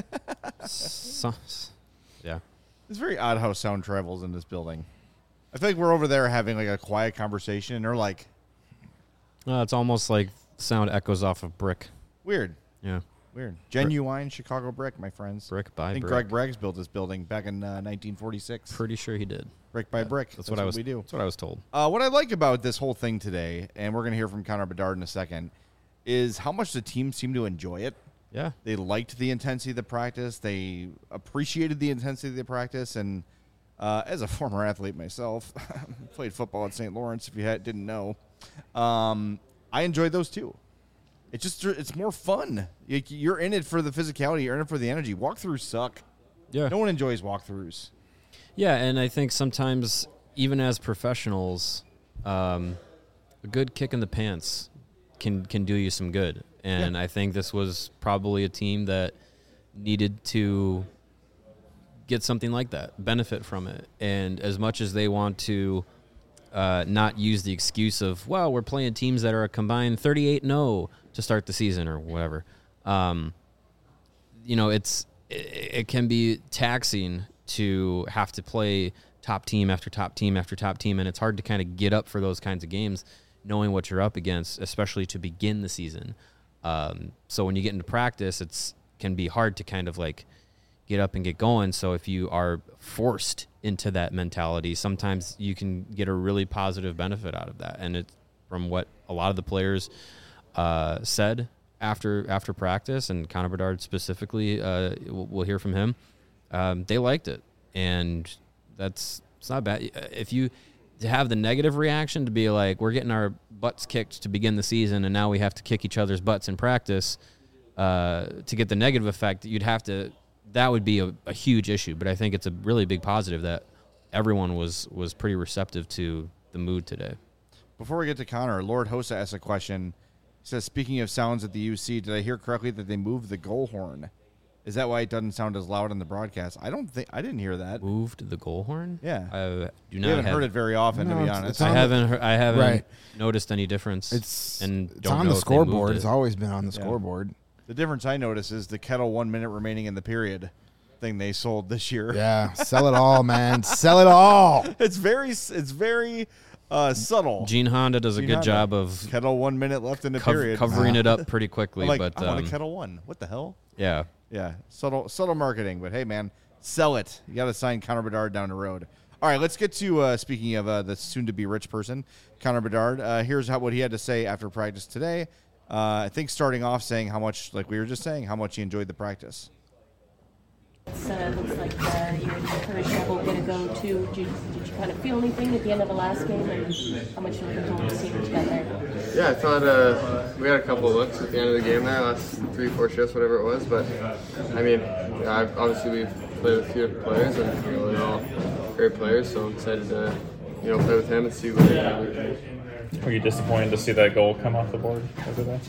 Speaker 1: Yeah. It's very odd how sound travels in this building. I feel like we're over there having like a quiet conversation, and they're like,
Speaker 2: it's almost like sound echoes off of brick.
Speaker 1: Weird.
Speaker 2: Yeah.
Speaker 1: Weird. Genuine Chicago brick, my friends.
Speaker 2: Brick by brick.
Speaker 1: I think Greg Braggs built this building back in 1946.
Speaker 2: Pretty sure he did.
Speaker 1: Brick by brick.
Speaker 2: That's what we do.
Speaker 1: That's
Speaker 2: what I was told.
Speaker 1: What I like about this whole thing today, and we're going to hear from Connor Bedard in a second, is how much the team seemed to enjoy it.
Speaker 2: Yeah.
Speaker 1: They liked the intensity of the practice. They appreciated the intensity of the practice. And as a former athlete myself, played football at St. Lawrence, if you didn't know, I enjoyed those too. It's more fun. You're in it for the physicality. You're in it for the energy. Walkthroughs suck.
Speaker 2: Yeah.
Speaker 1: No one enjoys walkthroughs.
Speaker 2: Yeah, and I think sometimes, even as professionals, a good kick in the pants can do you some good. And I think this was probably a team that needed to get something like that, benefit from it. And as much as they want to not use the excuse of, well, we're playing teams that are a combined 38-0 to start the season or whatever, it can be taxing to have to play top team after top team after top team, and it's hard to kind of get up for those kinds of games knowing what you're up against, especially to begin the season. So when you get into practice, it can be hard to kind of like get up and get going. So if you are forced into that mentality, sometimes you can get a really positive benefit out of that. And it's from what a lot of the players said after practice, and Connor Bedard specifically, we'll hear from him. They liked it, and it's not bad. If you to have the negative reaction to be like, we're getting our butts kicked to begin the season, and now we have to kick each other's butts in practice to get the negative effect, that would be a huge issue. But I think it's a really big positive that everyone was pretty receptive to the mood today.
Speaker 1: Before we get to Connor, Lord Hossa asked a question. He says, speaking of sounds at the UC, did I hear correctly that they moved the goal horn? Is that why it doesn't sound as loud on the broadcast? I didn't hear that.
Speaker 2: Moved the goal horn?
Speaker 1: Yeah.
Speaker 2: I
Speaker 1: We haven't heard it very often, to be honest.
Speaker 2: I haven't noticed any difference.
Speaker 3: It's
Speaker 2: don't
Speaker 3: on
Speaker 2: know
Speaker 3: the
Speaker 2: if they moved
Speaker 3: scoreboard.
Speaker 2: it.
Speaker 3: It's always been on the scoreboard.
Speaker 1: The difference I notice is the Kettle 1 minute remaining in the period thing they sold this year.
Speaker 3: Yeah, sell it all, man. Sell it all.
Speaker 1: It's very subtle.
Speaker 2: Gene Honda does a good job of
Speaker 1: Kettle 1 minute left in the period,
Speaker 2: covering it up pretty quickly.
Speaker 1: I want a Kettle 1. What the hell?
Speaker 2: Yeah.
Speaker 1: Yeah, subtle marketing, but hey, man, sell it. You got to sign Connor Bedard down the road. All right, let's get to speaking of the soon-to-be rich person, Connor Bedard. Here's what he had to say after practice today. I think starting off saying how much, like we were just saying, how much he enjoyed the practice.
Speaker 12: It looks like you're encouraged to going to go to. Did you kind of feel anything at the end of the last game, and how much you looking forward to seeing what you got there?
Speaker 13: Yeah, I thought we had a couple of looks at the end of the game there, last 3-4 shifts, whatever it was. But I mean, obviously we've play with a few different players, and they're all great players. So I'm excited to play with him and see what he can do.
Speaker 14: Are you disappointed to see that goal come off the board over there?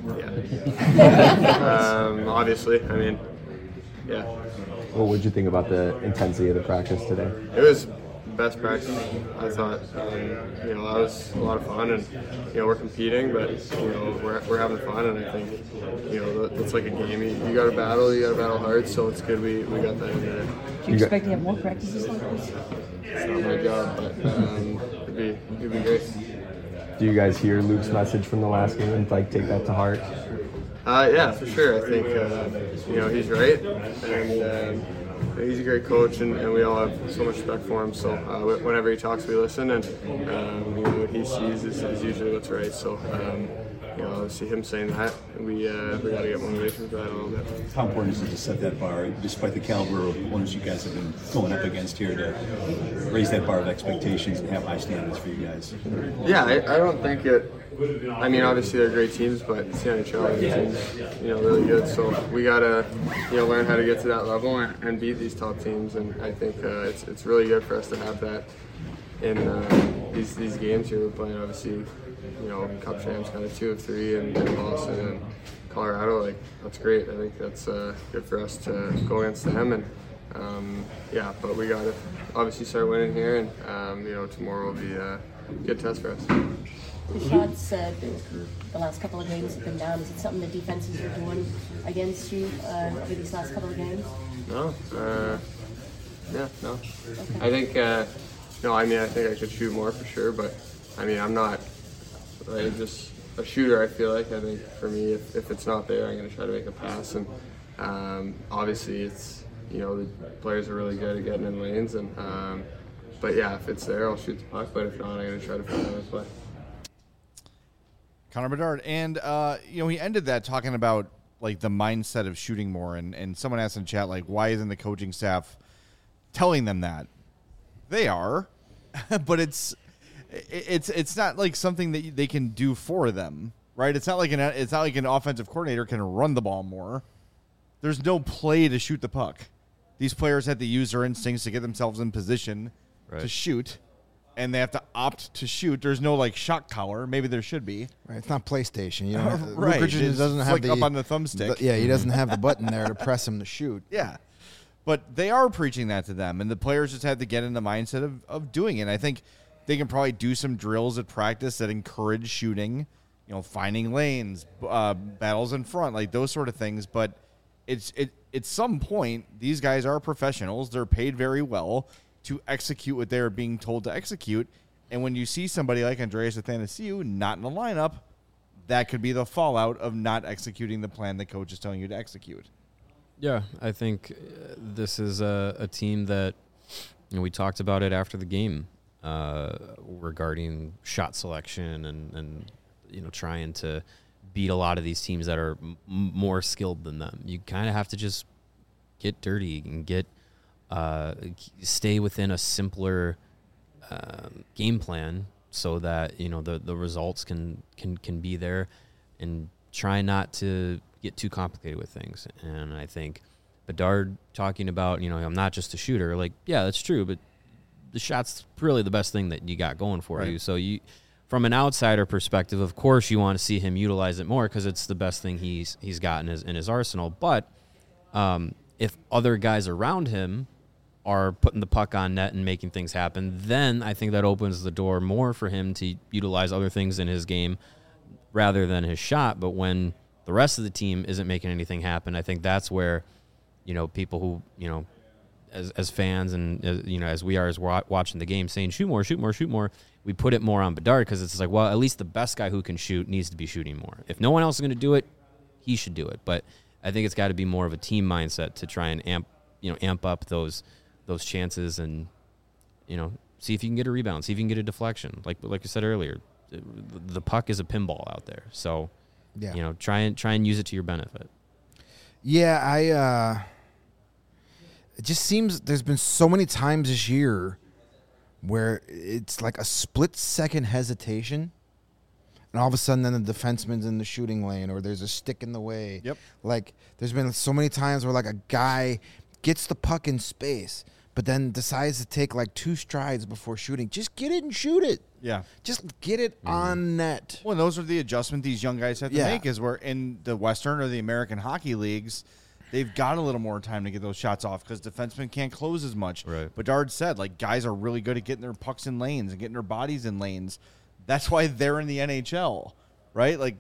Speaker 13: Yeah. Obviously, yeah.
Speaker 15: What would you think about the intensity of the practice today?
Speaker 13: It was best practice, I thought. That was a lot of fun, and we're competing, but we're having fun, and I think it's like a game. You got to battle hard. So it's good we got that in there.
Speaker 12: Do you expect to have more practices like this?
Speaker 13: It's not my job, but it'd be great.
Speaker 15: Do you guys hear Luke's message from the last game and take that to heart?
Speaker 13: Yeah, for sure. I think he's right, and he's a great coach, and we all have so much respect for him. So whenever he talks, we listen, and what he sees is usually what's right. So see him saying that, we got to get motivation for that a little bit.
Speaker 6: How important is it to set that bar, despite the caliber of opponents you guys have been going up against here, to raise that bar of expectations and have high standards for you guys?
Speaker 13: Yeah, I don't think it. Obviously they're great teams, but the NHL team's really good. So we gotta learn how to get to that level and beat these top teams. And I think it's really good for us to have that in these games here. We're playing obviously Cup champs, kind of 2 of 3 in Boston and Colorado. That's great. I think that's good for us to go against them. And but we gotta obviously start winning here, and tomorrow will be a good test for us.
Speaker 12: The shots the last couple of games have been down. Is it something the defenses are doing against you over these last couple of games?
Speaker 13: No. No.
Speaker 12: Okay.
Speaker 13: I think I think I could shoot more for sure, but I'm not just a shooter. I feel like I think for me, if it's not there, I'm going to try to make a pass, and obviously it's the players are really good at getting in lanes, and but yeah, if it's there, I'll shoot the puck. But if not, I'm going to try to find another play.
Speaker 1: Connor Bedard, and he ended that talking about the mindset of shooting more, and someone asked in chat why isn't the coaching staff telling them that? They are, but it's not something that they can do for them, right? It's not like an offensive coordinator can run the ball more. There's no play to shoot the puck. These players have to use their instincts to get themselves in position to shoot. And they have to opt to shoot. There's no shot collar. Maybe there should be.
Speaker 3: Right, it's not PlayStation.
Speaker 1: Right.
Speaker 3: Luke Richardson doesn't have
Speaker 1: the up on the thumbstick.
Speaker 3: He doesn't have the button there to press him to shoot.
Speaker 1: Yeah, but they are preaching that to them, and the players just have to get in the mindset of doing it. And I think they can probably do some drills at practice that encourage shooting. Finding lanes, battles in front, those sort of things. But at some point, these guys are professionals. They're paid very well to execute what they're being told to execute. And when you see somebody like Andreas Athanasiou not in the lineup, that could be the fallout of not executing the plan the coach is telling you to execute.
Speaker 2: Yeah, I think this is a team that we talked about it after the game regarding shot selection and trying to beat a lot of these teams that are more skilled than them. You kind of have to just get dirty and stay within a simpler game plan so that the results can be there, and try not to get too complicated with things. And I think Bedard talking about I'm not just a shooter, yeah, that's true, but the shot's really the best thing that you got going for you. So from an outsider perspective, of course you want to see him utilize it more because it's the best thing he's got in his arsenal. But if other guys around him are putting the puck on net and making things happen, then I think that opens the door more for him to utilize other things in his game rather than his shot. But when the rest of the team isn't making anything happen, I think that's where, people who, as fans and, as we are as we're watching the game saying, shoot more, shoot more, shoot more, we put it more on Bedard because it's well, at least the best guy who can shoot needs to be shooting more. If no one else is going to do it, he should do it. But I think it's got to be more of a team mindset to try and amp up those chances and, see if you can get a rebound, see if you can get a deflection. Like I said earlier, the puck is a pinball out there. So, try and use it to your benefit.
Speaker 3: Yeah, it just seems there's been so many times this year where it's like a split-second hesitation, and all of a sudden then the defenseman's in the shooting lane or there's a stick in the way.
Speaker 1: Yep.
Speaker 3: There's been so many times where a guy gets the puck in space, but then decides to take like 2 strides before shooting. Just get it and shoot it.
Speaker 1: Yeah.
Speaker 3: Just get it on net.
Speaker 1: Well, those are the adjustments these young guys have to
Speaker 3: Yeah.
Speaker 1: make, is where in the Western or the American Hockey Leagues, they've got a little more time to get those shots off because defensemen can't close as much.
Speaker 2: Right.
Speaker 1: Bedard said, like, guys are really good at getting their pucks in lanes and getting their bodies in lanes. That's why they're in the NHL, right? Like,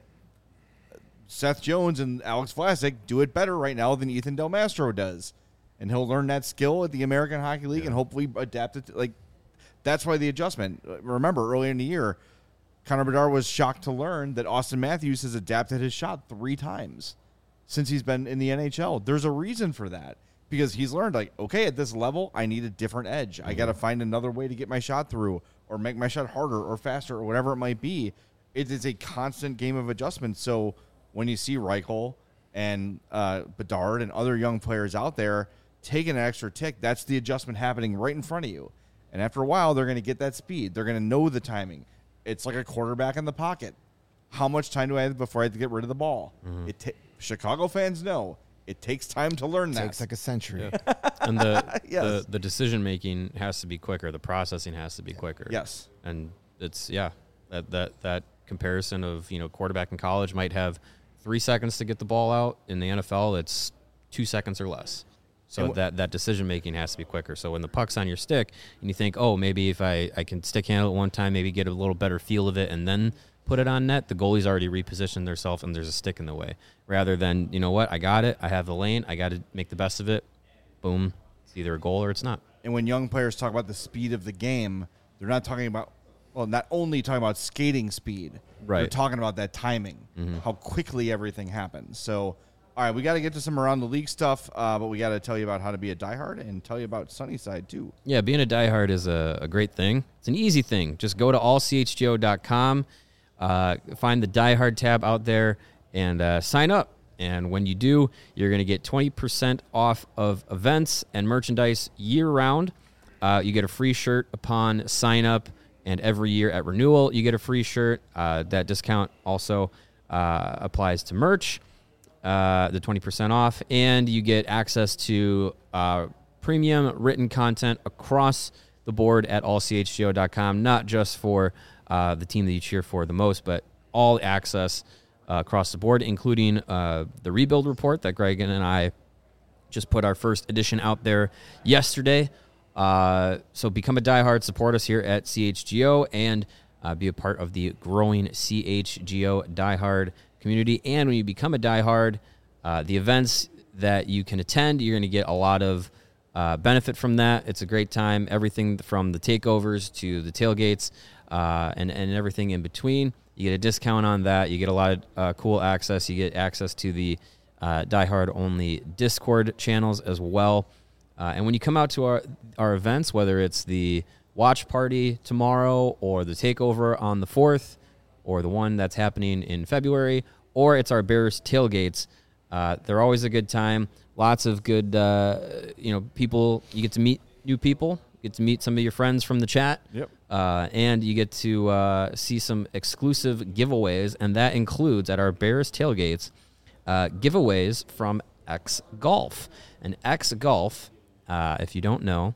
Speaker 1: Seth Jones and Alex Vlasic do it better right now than Ethan Del Mastro does. And he'll learn that skill at the American Hockey League and hopefully adapt it. Like, that's why the adjustment. Remember, earlier in the year, Connor Bedard was shocked to learn that Austin Matthews has adapted his shot 3 times since he's been in the NHL. There's a reason for that because he's learned, like, okay, at this level, I need a different edge. I got to find another way to get my shot through or make my shot harder or faster or whatever it might be. It is a constant game of adjustment. So when you see Reichel and Bedard and other young players out there taking an extra tick, that's the adjustment happening right in front of you. And after a while, they're going to get that speed. They're going to know the timing. It's like a quarterback in the pocket. How much time do I have before I have to get rid of the ball? Chicago fans know it takes time to learn that.
Speaker 3: It takes like a century.
Speaker 2: Yeah. And the
Speaker 1: Yes.
Speaker 2: the decision making has to be quicker. The processing has to be quicker.
Speaker 1: Yes.
Speaker 2: And it's that comparison of, quarterback in college might have 3 seconds to get the ball out. In the NFL, it's 2 seconds or less. So that decision making has to be quicker. So when the puck's on your stick and you think, oh, maybe if I can stick handle it one time, maybe get a little better feel of it and then put it on net, the goalie's already repositioned themselves and there's a stick in the way. Rather than, you know what, I got it, I have the lane, I got to make the best of it. Boom, it's either a goal or it's not.
Speaker 1: And when young players talk about the speed of the game, they're not talking about, not only talking about skating speed.
Speaker 2: Right.
Speaker 1: They're talking about that timing, how quickly everything happens. So, all right, we got to get to some around the league stuff, but we got to tell you about how to be a diehard and tell you about Sunnyside, too.
Speaker 2: Yeah, being a diehard is a great thing. It's an easy thing. Just go to allchgo.com, find the diehard tab out there, and sign up. And when you do, you're going to get 20% off of events and merchandise year-round. You get a free shirt upon sign-up, and every year at renewal, you get a free shirt. That discount also applies to merch. The 20% off, and you get access to premium written content across the board at allchgo.com, not just for the team that you cheer for the most, but all access across the board, including the rebuild report that Greg and I just put our first edition out there yesterday. So become a diehard, support us here at CHGO, and be a part of the growing CHGO diehard community. And when you become a diehard, the events that you can attend, you're going to get a lot of benefit from that. It's a great time. Everything from the takeovers to the tailgates and everything in between. You get a discount on that. You get a lot of cool access. You get access to the diehard-only Discord channels as well. And when you come out to our events, whether it's the watch party tomorrow or the takeover on the 4th, or the one that's happening in February, or it's our Bears tailgates. They're always a good time. Lots of good, people. You get to meet new people. You get to meet some of your friends from the chat.
Speaker 1: Yep.
Speaker 2: And you get to see some exclusive giveaways, and that includes at our Bears tailgates giveaways from X Golf. And X Golf, if you don't know,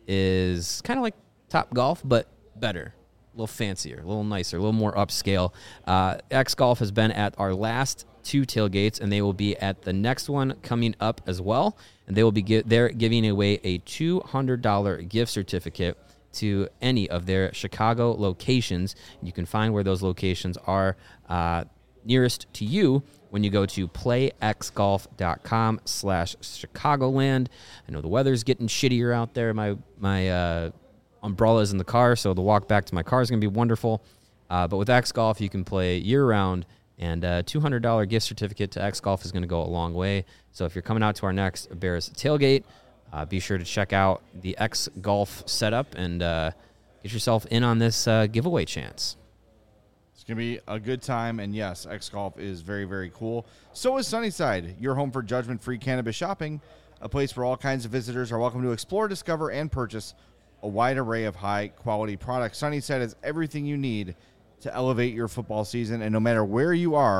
Speaker 2: is kind of like Top Golf, but better. A little fancier, a little nicer, a little more upscale. X Golf has been at our last 2 tailgates, and they will be at the next one coming up as well. And they will be they're giving away a $200 gift certificate to any of their Chicago locations. You can find where those locations are nearest to you when you go to playxgolf.com/Chicagoland. I know the weather's getting shittier out there. My umbrella's in the car, so the walk back to my car is going to be wonderful. But with X Golf, you can play year-round, and a $200 gift certificate to X Golf is going to go a long way. So if you're coming out to our next Bears tailgate, be sure to check out the X Golf setup and get yourself in on this giveaway chance.
Speaker 1: It's going to be a good time, and yes, X Golf is very, very cool. So is Sunnyside, your home for judgment-free cannabis shopping, a place where all kinds of visitors are welcome to explore, discover, and purchase a wide array of high-quality products. Sunnyside has everything you need to elevate your football season, and no matter where you are,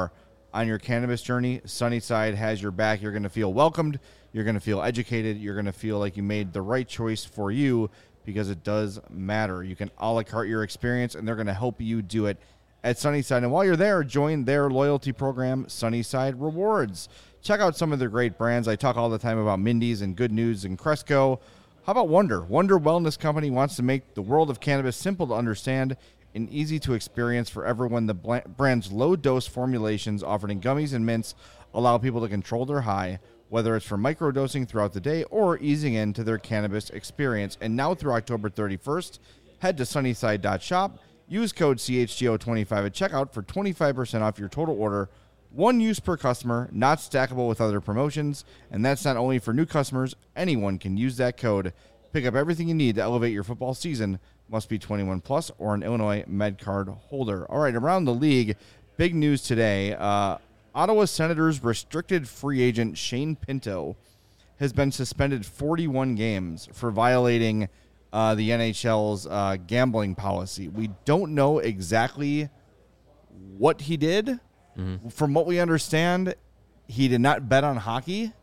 Speaker 1: on your cannabis journey, Sunnyside has your back. You're going to feel welcomed. You're going to feel educated. You're going to feel like you made the right choice for you because it does matter. You can a la carte your experience, and they're going to help you do it at Sunnyside. And while you're there, join their loyalty program, Sunnyside Rewards. Check out some of their great brands. I talk all the time about Mindy's and Good News and Cresco. How about Wonder? Wonder Wellness Company wants to make the world of cannabis simple to understand and easy to experience for everyone. The brand's low-dose formulations offered in gummies and mints allow people to control their high, whether it's for microdosing throughout the day or easing into their cannabis experience. And now through October 31st, head to sunnyside.shop, use code CHGO25 at checkout for 25% off your total order. One use per customer, not stackable with other promotions, and that's not only for new customers. Anyone can use that code. Pick up everything you need to elevate your football season. Must be 21 plus or an Illinois MedCard holder. All right, around the league, big news today. Ottawa Senators restricted free agent Shane Pinto has been suspended 41 games for violating the NHL's gambling policy. We don't know exactly what he did. Mm-hmm. From what we understand, he did not bet on hockey.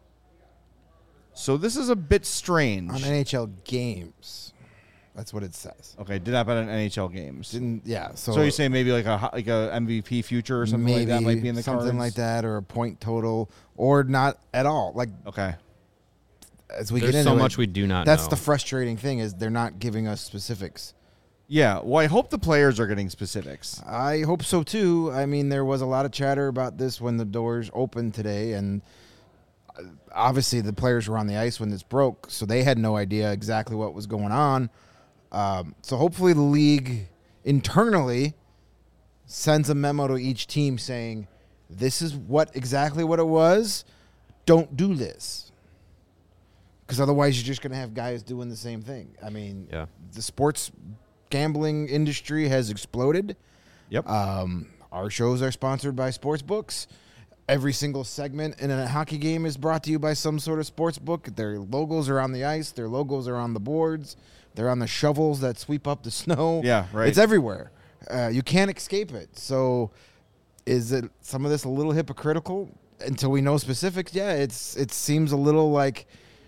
Speaker 1: So this is a bit strange.
Speaker 3: On NHL games. That's what it says.
Speaker 1: Okay, did not bet on NHL games.
Speaker 3: So
Speaker 1: you say maybe like a MVP future or something like that might be in the
Speaker 3: something
Speaker 1: cards?
Speaker 3: like that, or a point total, or not at all. Like
Speaker 1: okay,
Speaker 3: as we
Speaker 2: There's
Speaker 3: get into
Speaker 2: so
Speaker 3: it,
Speaker 2: much we do not
Speaker 3: That's
Speaker 2: know.
Speaker 3: the frustrating thing is they're not giving us specifics.
Speaker 1: Yeah, well, I hope the players are getting specifics.
Speaker 3: I hope so too. I mean, there was a lot of chatter about this when the doors opened today, and obviously the players were on the ice when this broke, so they had no idea exactly what was going on. So hopefully the league internally sends a memo to each team saying, this is exactly what it was. Don't do this. Because otherwise you're just going to have guys doing the same thing. I mean, the sports gambling industry has exploded.
Speaker 1: Yep.
Speaker 3: Our shows are sponsored by sports books. Every single segment in a hockey game is brought to you by some sort of sports book. Their logos are on the ice. Their logos are on the boards. They're on the shovels that sweep up the snow.
Speaker 1: Yeah, right.
Speaker 3: It's everywhere. You can't escape it. So is it some of this a little hypocritical until we know specifics? Yeah, it seems a little like,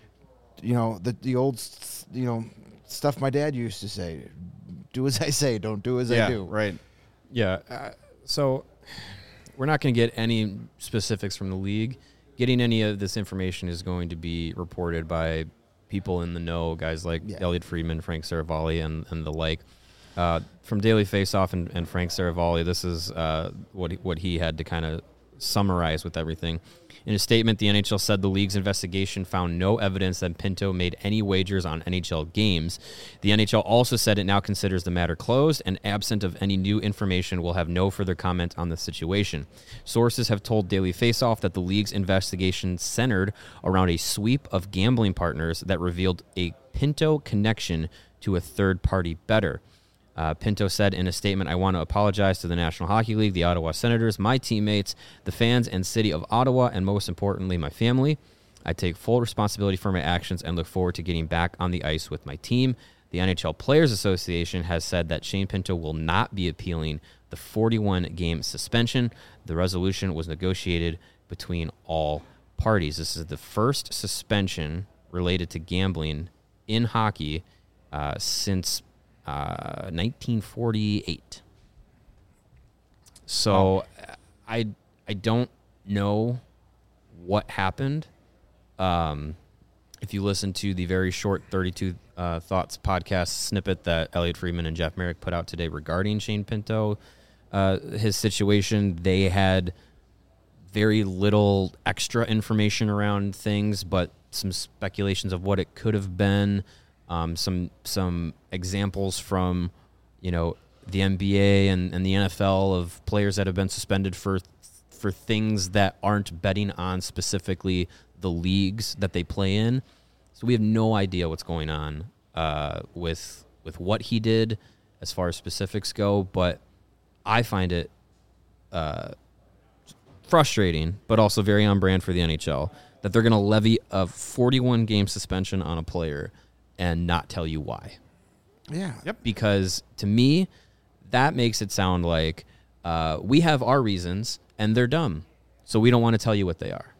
Speaker 3: the old, stuff my dad used to say. Do as I say, don't do as I do.
Speaker 1: Right.
Speaker 2: Yeah. So we're not going to get any specifics from the league. Getting any of this information is going to be reported by people in the know, guys like Elliot Friedman, Frank Saravalli, and the like. From Daily Faceoff and Frank Saravalli, this is what he had to kind of summarize with everything. In a statement, the NHL said the league's investigation found no evidence that Pinto made any wagers on NHL games. The NHL also said it now considers the matter closed and absent of any new information will have no further comment on the situation. Sources have told Daily Faceoff that the league's investigation centered around a sweep of gambling partners that revealed a Pinto connection to a third-party bettor. Pinto said in a statement, I want to apologize to the National Hockey League, the Ottawa Senators, my teammates, the fans and city of Ottawa, and most importantly, my family. I take full responsibility for my actions and look forward to getting back on the ice with my team. The NHL Players Association has said that Shane Pinto will not be appealing the 41-game suspension. The resolution was negotiated between all parties. This is the first suspension related to gambling in hockey since 1948. So I don't know what happened. If you listen to the very short 32 Thoughts podcast snippet that Elliot Friedman and Jeff Merrick put out today regarding Shane Pinto, his situation, they had very little extra information around things, but some speculations of what it could have been. Some examples from, the NBA and the NFL of players that have been suspended for things that aren't betting on specifically the leagues that they play in. So we have no idea what's going on with what he did as far as specifics go, but I find it frustrating, but also very on brand for the NHL that they're going to levy a 41-game suspension on a player and not tell you why.
Speaker 3: Yeah.
Speaker 1: Yep.
Speaker 2: Because to me, that makes it sound like we have our reasons and they're dumb. so we don't want to tell you what they are.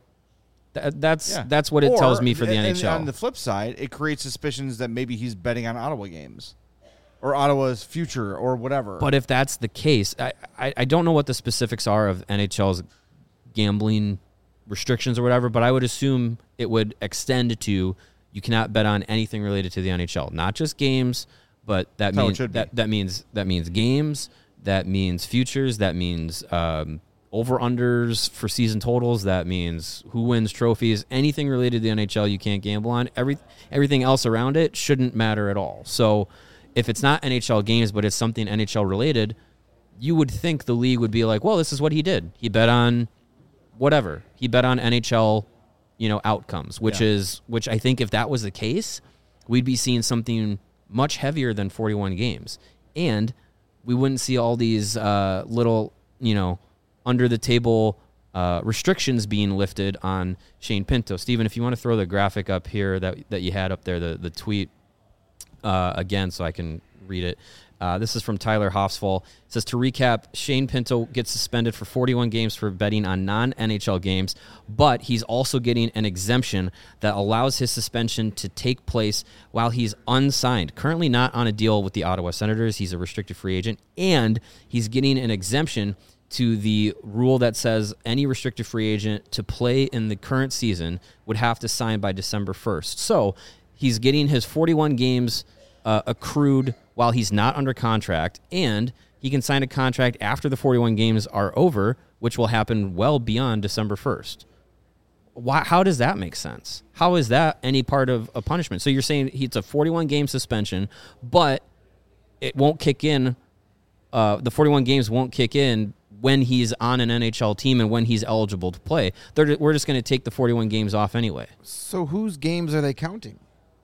Speaker 2: That's what it tells me for the NHL.
Speaker 1: And on the flip side, it creates suspicions that maybe he's betting on Ottawa games or Ottawa's future or whatever.
Speaker 2: But if that's the case, I don't know what the specifics are of NHL's gambling restrictions or whatever, but I would assume it would extend to you cannot bet on anything related to the NHL, not just games, but that means that means games, that means futures, that means over-unders for season totals, that means who wins trophies, anything related to the NHL you can't gamble on. Everything else around it shouldn't matter at all. So if it's not NHL games, but it's something NHL related, you would think the league would be like, well, this is what he did. He bet on whatever. He bet on NHL, outcomes, which I think if that was the case, we'd be seeing something much heavier than 41 games. And we wouldn't see all these little, under the table restrictions being lifted on Shane Pinto. Steven, if you want to throw the graphic up here that you had up there, the tweet again, so I can read it. This is from Tyler Hoffsfall. It says, to recap, Shane Pinto gets suspended for 41 games for betting on non-NHL games, but he's also getting an exemption that allows his suspension to take place while he's unsigned. Currently not on a deal with the Ottawa Senators. He's a restricted free agent, and he's getting an exemption to the rule that says any restricted free agent to play in the current season would have to sign by December 1st. So he's getting his 41 games accrued while he's not under contract, and he can sign a contract after the 41 games are over, which will happen well beyond December 1st. How does that make sense? How is that any part of a punishment? So you're saying it's a 41-game suspension, but it won't kick in, the 41 games won't kick in when he's on an NHL team and when he's eligible to play. We're just going to take the 41 games off anyway.
Speaker 3: So whose games are they counting?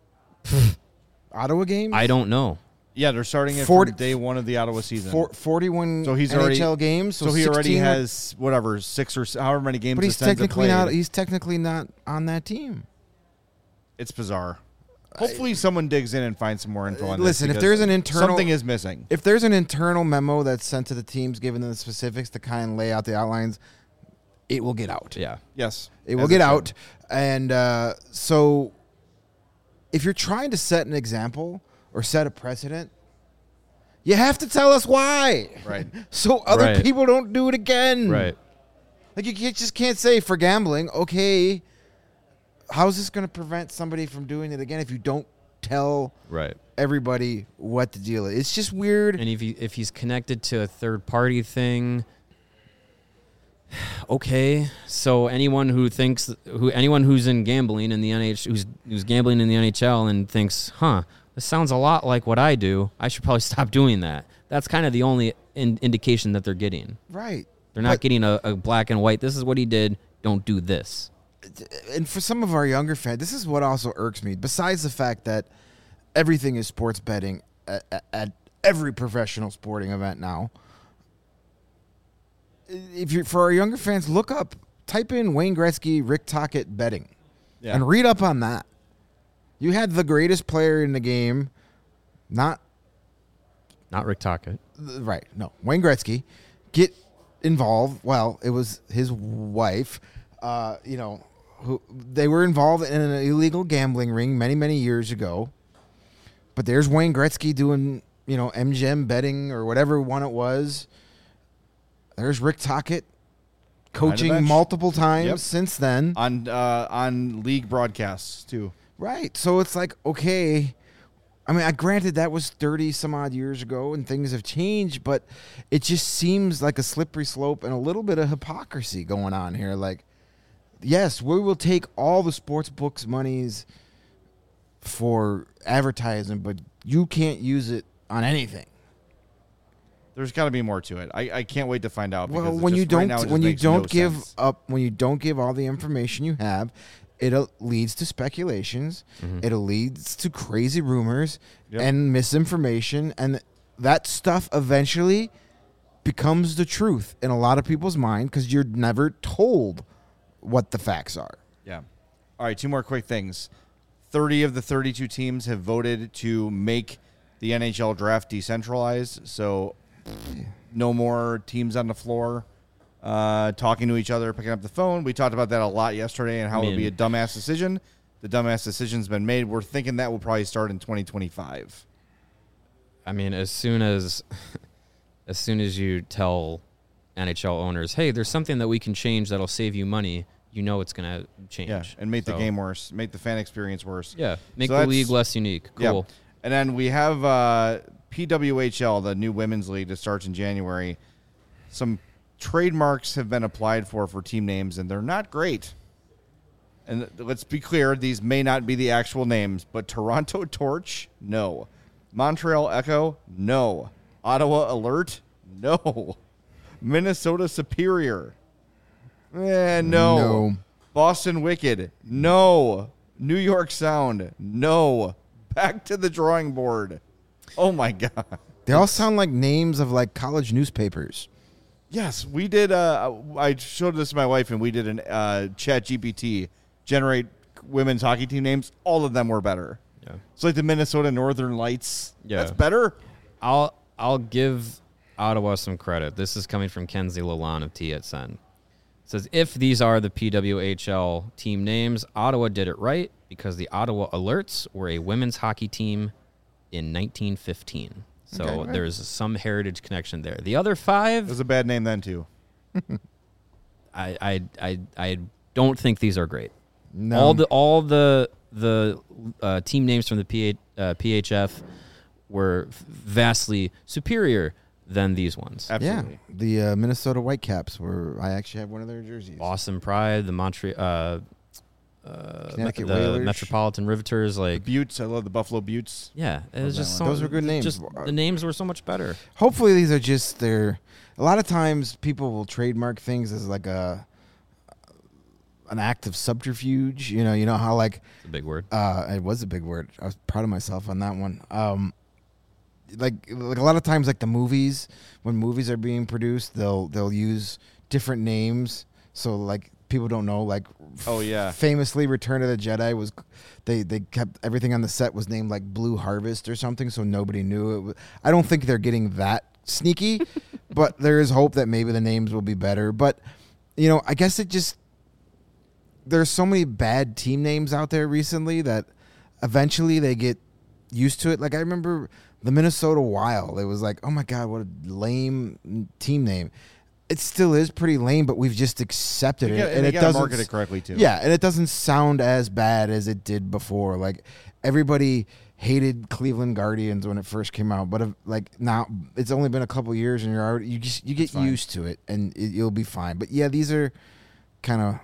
Speaker 3: Ottawa games?
Speaker 2: I don't know.
Speaker 1: Yeah, they're starting it from day one of the Ottawa season.
Speaker 3: 41
Speaker 1: so he's
Speaker 3: NHL games.
Speaker 1: So he already has whatever 6 or however many games.
Speaker 3: But he's technically not on that team.
Speaker 1: It's bizarre. Hopefully, someone digs in and finds some more info on this.
Speaker 3: Listen, if there's an internal
Speaker 1: something is missing.
Speaker 3: If there's an internal memo that's sent to the teams, giving them the specifics to kind of lay out the outlines, it will get out.
Speaker 2: Yeah.
Speaker 1: Yes.
Speaker 3: It will get out, and so if you're trying to set an example or set a precedent, you have to tell us why.
Speaker 1: Right.
Speaker 3: So other people don't do it again.
Speaker 2: Right.
Speaker 3: Like you just can't say for gambling, okay, how's this going to prevent somebody from doing it again if you don't tell everybody what the deal is? It's just weird.
Speaker 2: And if he's connected to a third-party thing, okay. So anyone who's in gambling in the NHL, who's gambling in the NHL and thinks, this sounds a lot like what I do, I should probably stop doing that. That's kind of the only indication that they're getting.
Speaker 3: Right.
Speaker 2: They're not getting a black and white, this is what he did, don't do this.
Speaker 3: And for some of our younger fans, this is what also irks me. Besides the fact that everything is sports betting at every professional sporting event now, for our younger fans, type in Wayne Gretzky, Rick Tocchet betting, and read up on that. You had the greatest player in the game, not
Speaker 2: Rick Tocchet,
Speaker 3: right? No, Wayne Gretzky, get involved. Well, it was his wife. Who they were involved in an illegal gambling ring many years ago. But there's Wayne Gretzky doing MGM betting or whatever one it was. There's Rick Tocchet coaching multiple times since then
Speaker 1: on league broadcasts too.
Speaker 3: Right. So it's like, okay, I mean, granted that was 30 some odd years ago and things have changed, but it just seems like a slippery slope and a little bit of hypocrisy going on here. Like, yes, we will take all the sports books monies for advertising, but you can't use it on anything.
Speaker 1: There's got to be more to it. I can't wait to find out.
Speaker 3: Well, when you don't give all the information you have, it leads to speculations. Mm-hmm. It leads to crazy rumors and misinformation, and that stuff eventually becomes the truth in a lot of people's mind because you're never told what the facts are.
Speaker 1: Yeah. All right, 2 more quick things. 30 of the 32 teams have voted to make the NHL draft decentralized, so no more teams on the floor talking to each other, picking up the phone. We talked about that a lot yesterday and how it would be a dumbass decision. The dumbass decision's been made. We're thinking that will probably start in 2025.
Speaker 2: I mean, as soon as you tell NHL owners, hey, there's something that we can change that'll save you money, you know it's going to change.
Speaker 1: Yeah, and make the game worse, make the fan experience worse.
Speaker 2: Yeah, make the league less unique. Cool.
Speaker 1: Yeah. And then we have PWHL, the new women's league that starts in January. Some trademarks have been applied for team names, and they're not great. And let's be clear, these may not be the actual names, but Toronto Torch, no. Montreal Echo, no. Ottawa Alert, no. Minnesota Superior, no. Boston Wicked, no. New York Sound, no. Back to the drawing board. Oh, my God.
Speaker 3: They all sound like names of, like, college newspapers.
Speaker 1: Yes, we did. I showed this to my wife, and we did an ChatGPT generate women's hockey team names. All of them were better.
Speaker 2: Yeah,
Speaker 1: it's like the Minnesota Northern Lights.
Speaker 2: Yeah,
Speaker 1: that's better.
Speaker 2: I'll give Ottawa some credit. This is coming from Kenzie Lalonde of TSN. It says, if these are the PWHL team names, Ottawa did it right because the Ottawa Alerts were a women's hockey team in 1915. So there's some heritage connection there. The other 5...
Speaker 1: It was a bad name then, too.
Speaker 2: I don't think these are great.
Speaker 3: No.
Speaker 2: All the team names from the PHF were vastly superior than these ones.
Speaker 1: Absolutely.
Speaker 3: Yeah, the Minnesota Whitecaps were. I actually have one of their jerseys.
Speaker 2: Boston Pride, the Montreal,
Speaker 3: Connecticut
Speaker 2: the
Speaker 3: Whalers.
Speaker 2: Metropolitan Riveters, like
Speaker 1: the Buttes. I love the Buffalo Buttes.
Speaker 2: Yeah, it was just
Speaker 3: those were good names.
Speaker 2: Just the names were so much better.
Speaker 3: Hopefully, these are just their. A lot of times, people will trademark things as like an act of subterfuge. You know how like
Speaker 2: it's a big word.
Speaker 3: It was a big word. I was proud of myself on that one. Like a lot of times, like the movies, when movies are being produced, they'll use different names. So like people don't know. Like famously, Return of the Jedi was they kept everything on the set was named like Blue Harvest or something, so nobody knew it. I don't think they're getting that sneaky, but there is hope that maybe the names will be better. But I guess it just there's so many bad team names out there recently that eventually they get used to it. Like I remember the Minnesota Wild. It was like, oh my God, what a lame team name. It still is pretty lame, but we've just accepted it, and it doesn't
Speaker 1: market it correctly too.
Speaker 3: Yeah, and it doesn't sound as bad as it did before. Like everybody hated Cleveland Guardians when it first came out, but like now it's only been a couple years, and you get used to it, and you'll be fine. But yeah, these are kind of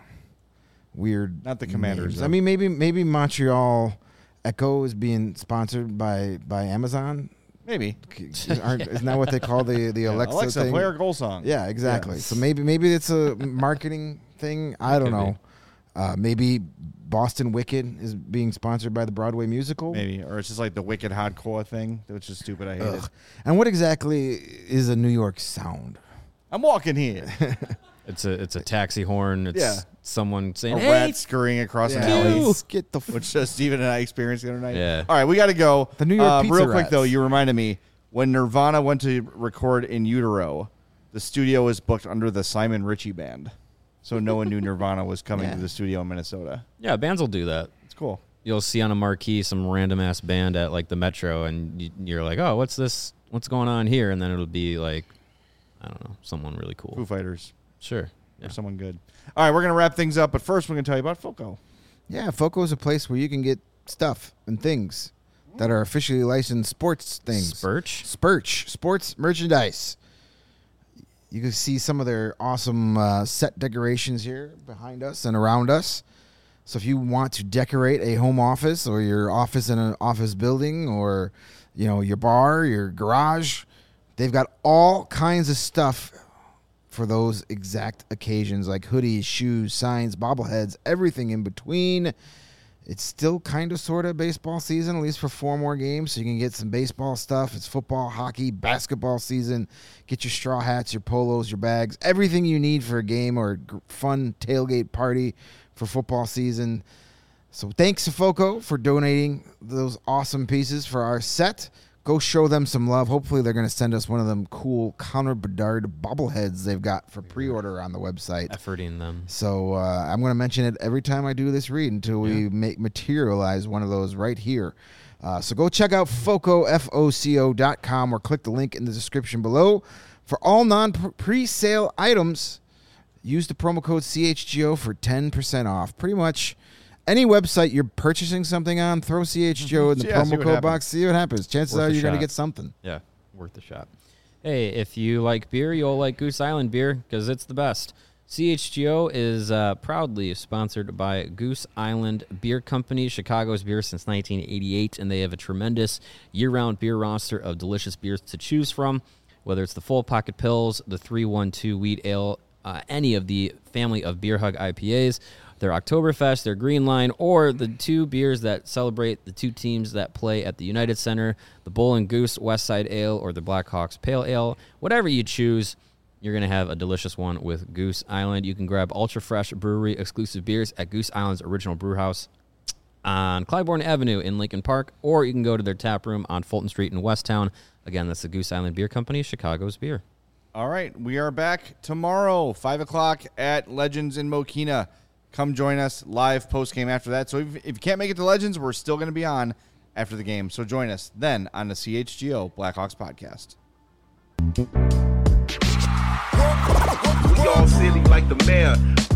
Speaker 3: weird.
Speaker 1: Not the Commanders.
Speaker 3: I mean, maybe Montreal Echo is being sponsored by Amazon.
Speaker 1: Maybe
Speaker 3: isn't that what they call the Alexa thing?
Speaker 1: Play our goal song.
Speaker 3: Yeah, exactly. Yeah. So maybe it's a marketing thing. I don't know. Maybe Boston Wicked is being sponsored by the Broadway musical.
Speaker 1: Maybe, or it's just like the Wicked Hardcore thing, which is stupid. I hate it.
Speaker 3: And what exactly is a New York Sound?
Speaker 1: I'm walking here.
Speaker 2: It's a taxi horn. It's someone saying,
Speaker 1: a
Speaker 2: hey,
Speaker 1: rat scurrying across an alley.
Speaker 3: Get the
Speaker 1: which Steven and I experienced the other night.
Speaker 2: Yeah.
Speaker 1: All right, we got to go.
Speaker 3: The New York pizza
Speaker 1: real quick
Speaker 3: rats.
Speaker 1: though, you reminded me when Nirvana went to record in utero, the studio was booked under the Simon Ritchie Band, so no one knew Nirvana was coming to the studio in Minnesota.
Speaker 2: Yeah, bands will do that.
Speaker 1: It's cool.
Speaker 2: You'll see on a marquee some random ass band at like the Metro, and you're like, oh, what's this? What's going on here? And then it'll be like, I don't know, someone really cool.
Speaker 1: Foo Fighters.
Speaker 2: Sure.
Speaker 1: Or someone good. All right, we're going to wrap things up, but first we're going to tell you about FOCO.
Speaker 3: Yeah, FOCO is a place where you can get stuff and things that are officially licensed sports things. Spurch. Sports merchandise. You can see some of their awesome set decorations here behind us and around us. So if you want to decorate a home office or your office in an office building or, your bar, your garage, they've got all kinds of stuff for those exact occasions, like hoodies, shoes, signs, bobbleheads, everything in between. It's still kind of sort of baseball season, at least for 4 more games, so you can get some baseball stuff. It's football, hockey, basketball season. Get your straw hats, your polos, your bags, everything you need for a game or a fun tailgate party for football season. So thanks to FOCO for donating those awesome pieces for our set. Go show them some love. Hopefully they're going to send us one of them cool Connor Bedard bobbleheads they've got for pre-order on the website.
Speaker 2: Efforting them.
Speaker 3: So I'm going to mention it every time I do this read until we materialize one of those right here. So go check out foco.com or click the link in the description below. For all non-pre-sale items, use the promo code CHGO for 10% off. Pretty much any website you're purchasing something on, throw CHGO in the promo code box, see what happens. Chances are you're going to get something.
Speaker 2: Yeah, worth a shot. Hey, if you like beer, you'll like Goose Island beer because it's the best. CHGO is proudly sponsored by Goose Island Beer Company, Chicago's beer since 1988, and they have a tremendous year-round beer roster of delicious beers to choose from, whether it's the Full Pocket Pills, the 312 Wheat Ale, any of the family of Beer Hug IPAs, their Oktoberfest, their Green Line, or the two beers that celebrate the two teams that play at the United Center, the Bull and Goose West Side Ale or the Blackhawks Pale Ale. Whatever you choose, you're going to have a delicious one with Goose Island. You can grab ultra-fresh brewery exclusive beers at Goose Island's original brew house on Clybourne Avenue in Lincoln Park, or you can go to their tap room on Fulton Street in Westtown. Again, that's the Goose Island Beer Company, Chicago's beer.
Speaker 1: All right, we are back tomorrow, 5 o'clock at Legends in Mokina. Come join us live post-game after that. So if you can't make it to Legends, we're still going to be on after the game. So join us then on the CHGO Blackhawks podcast.
Speaker 16: We all silly like the mayor.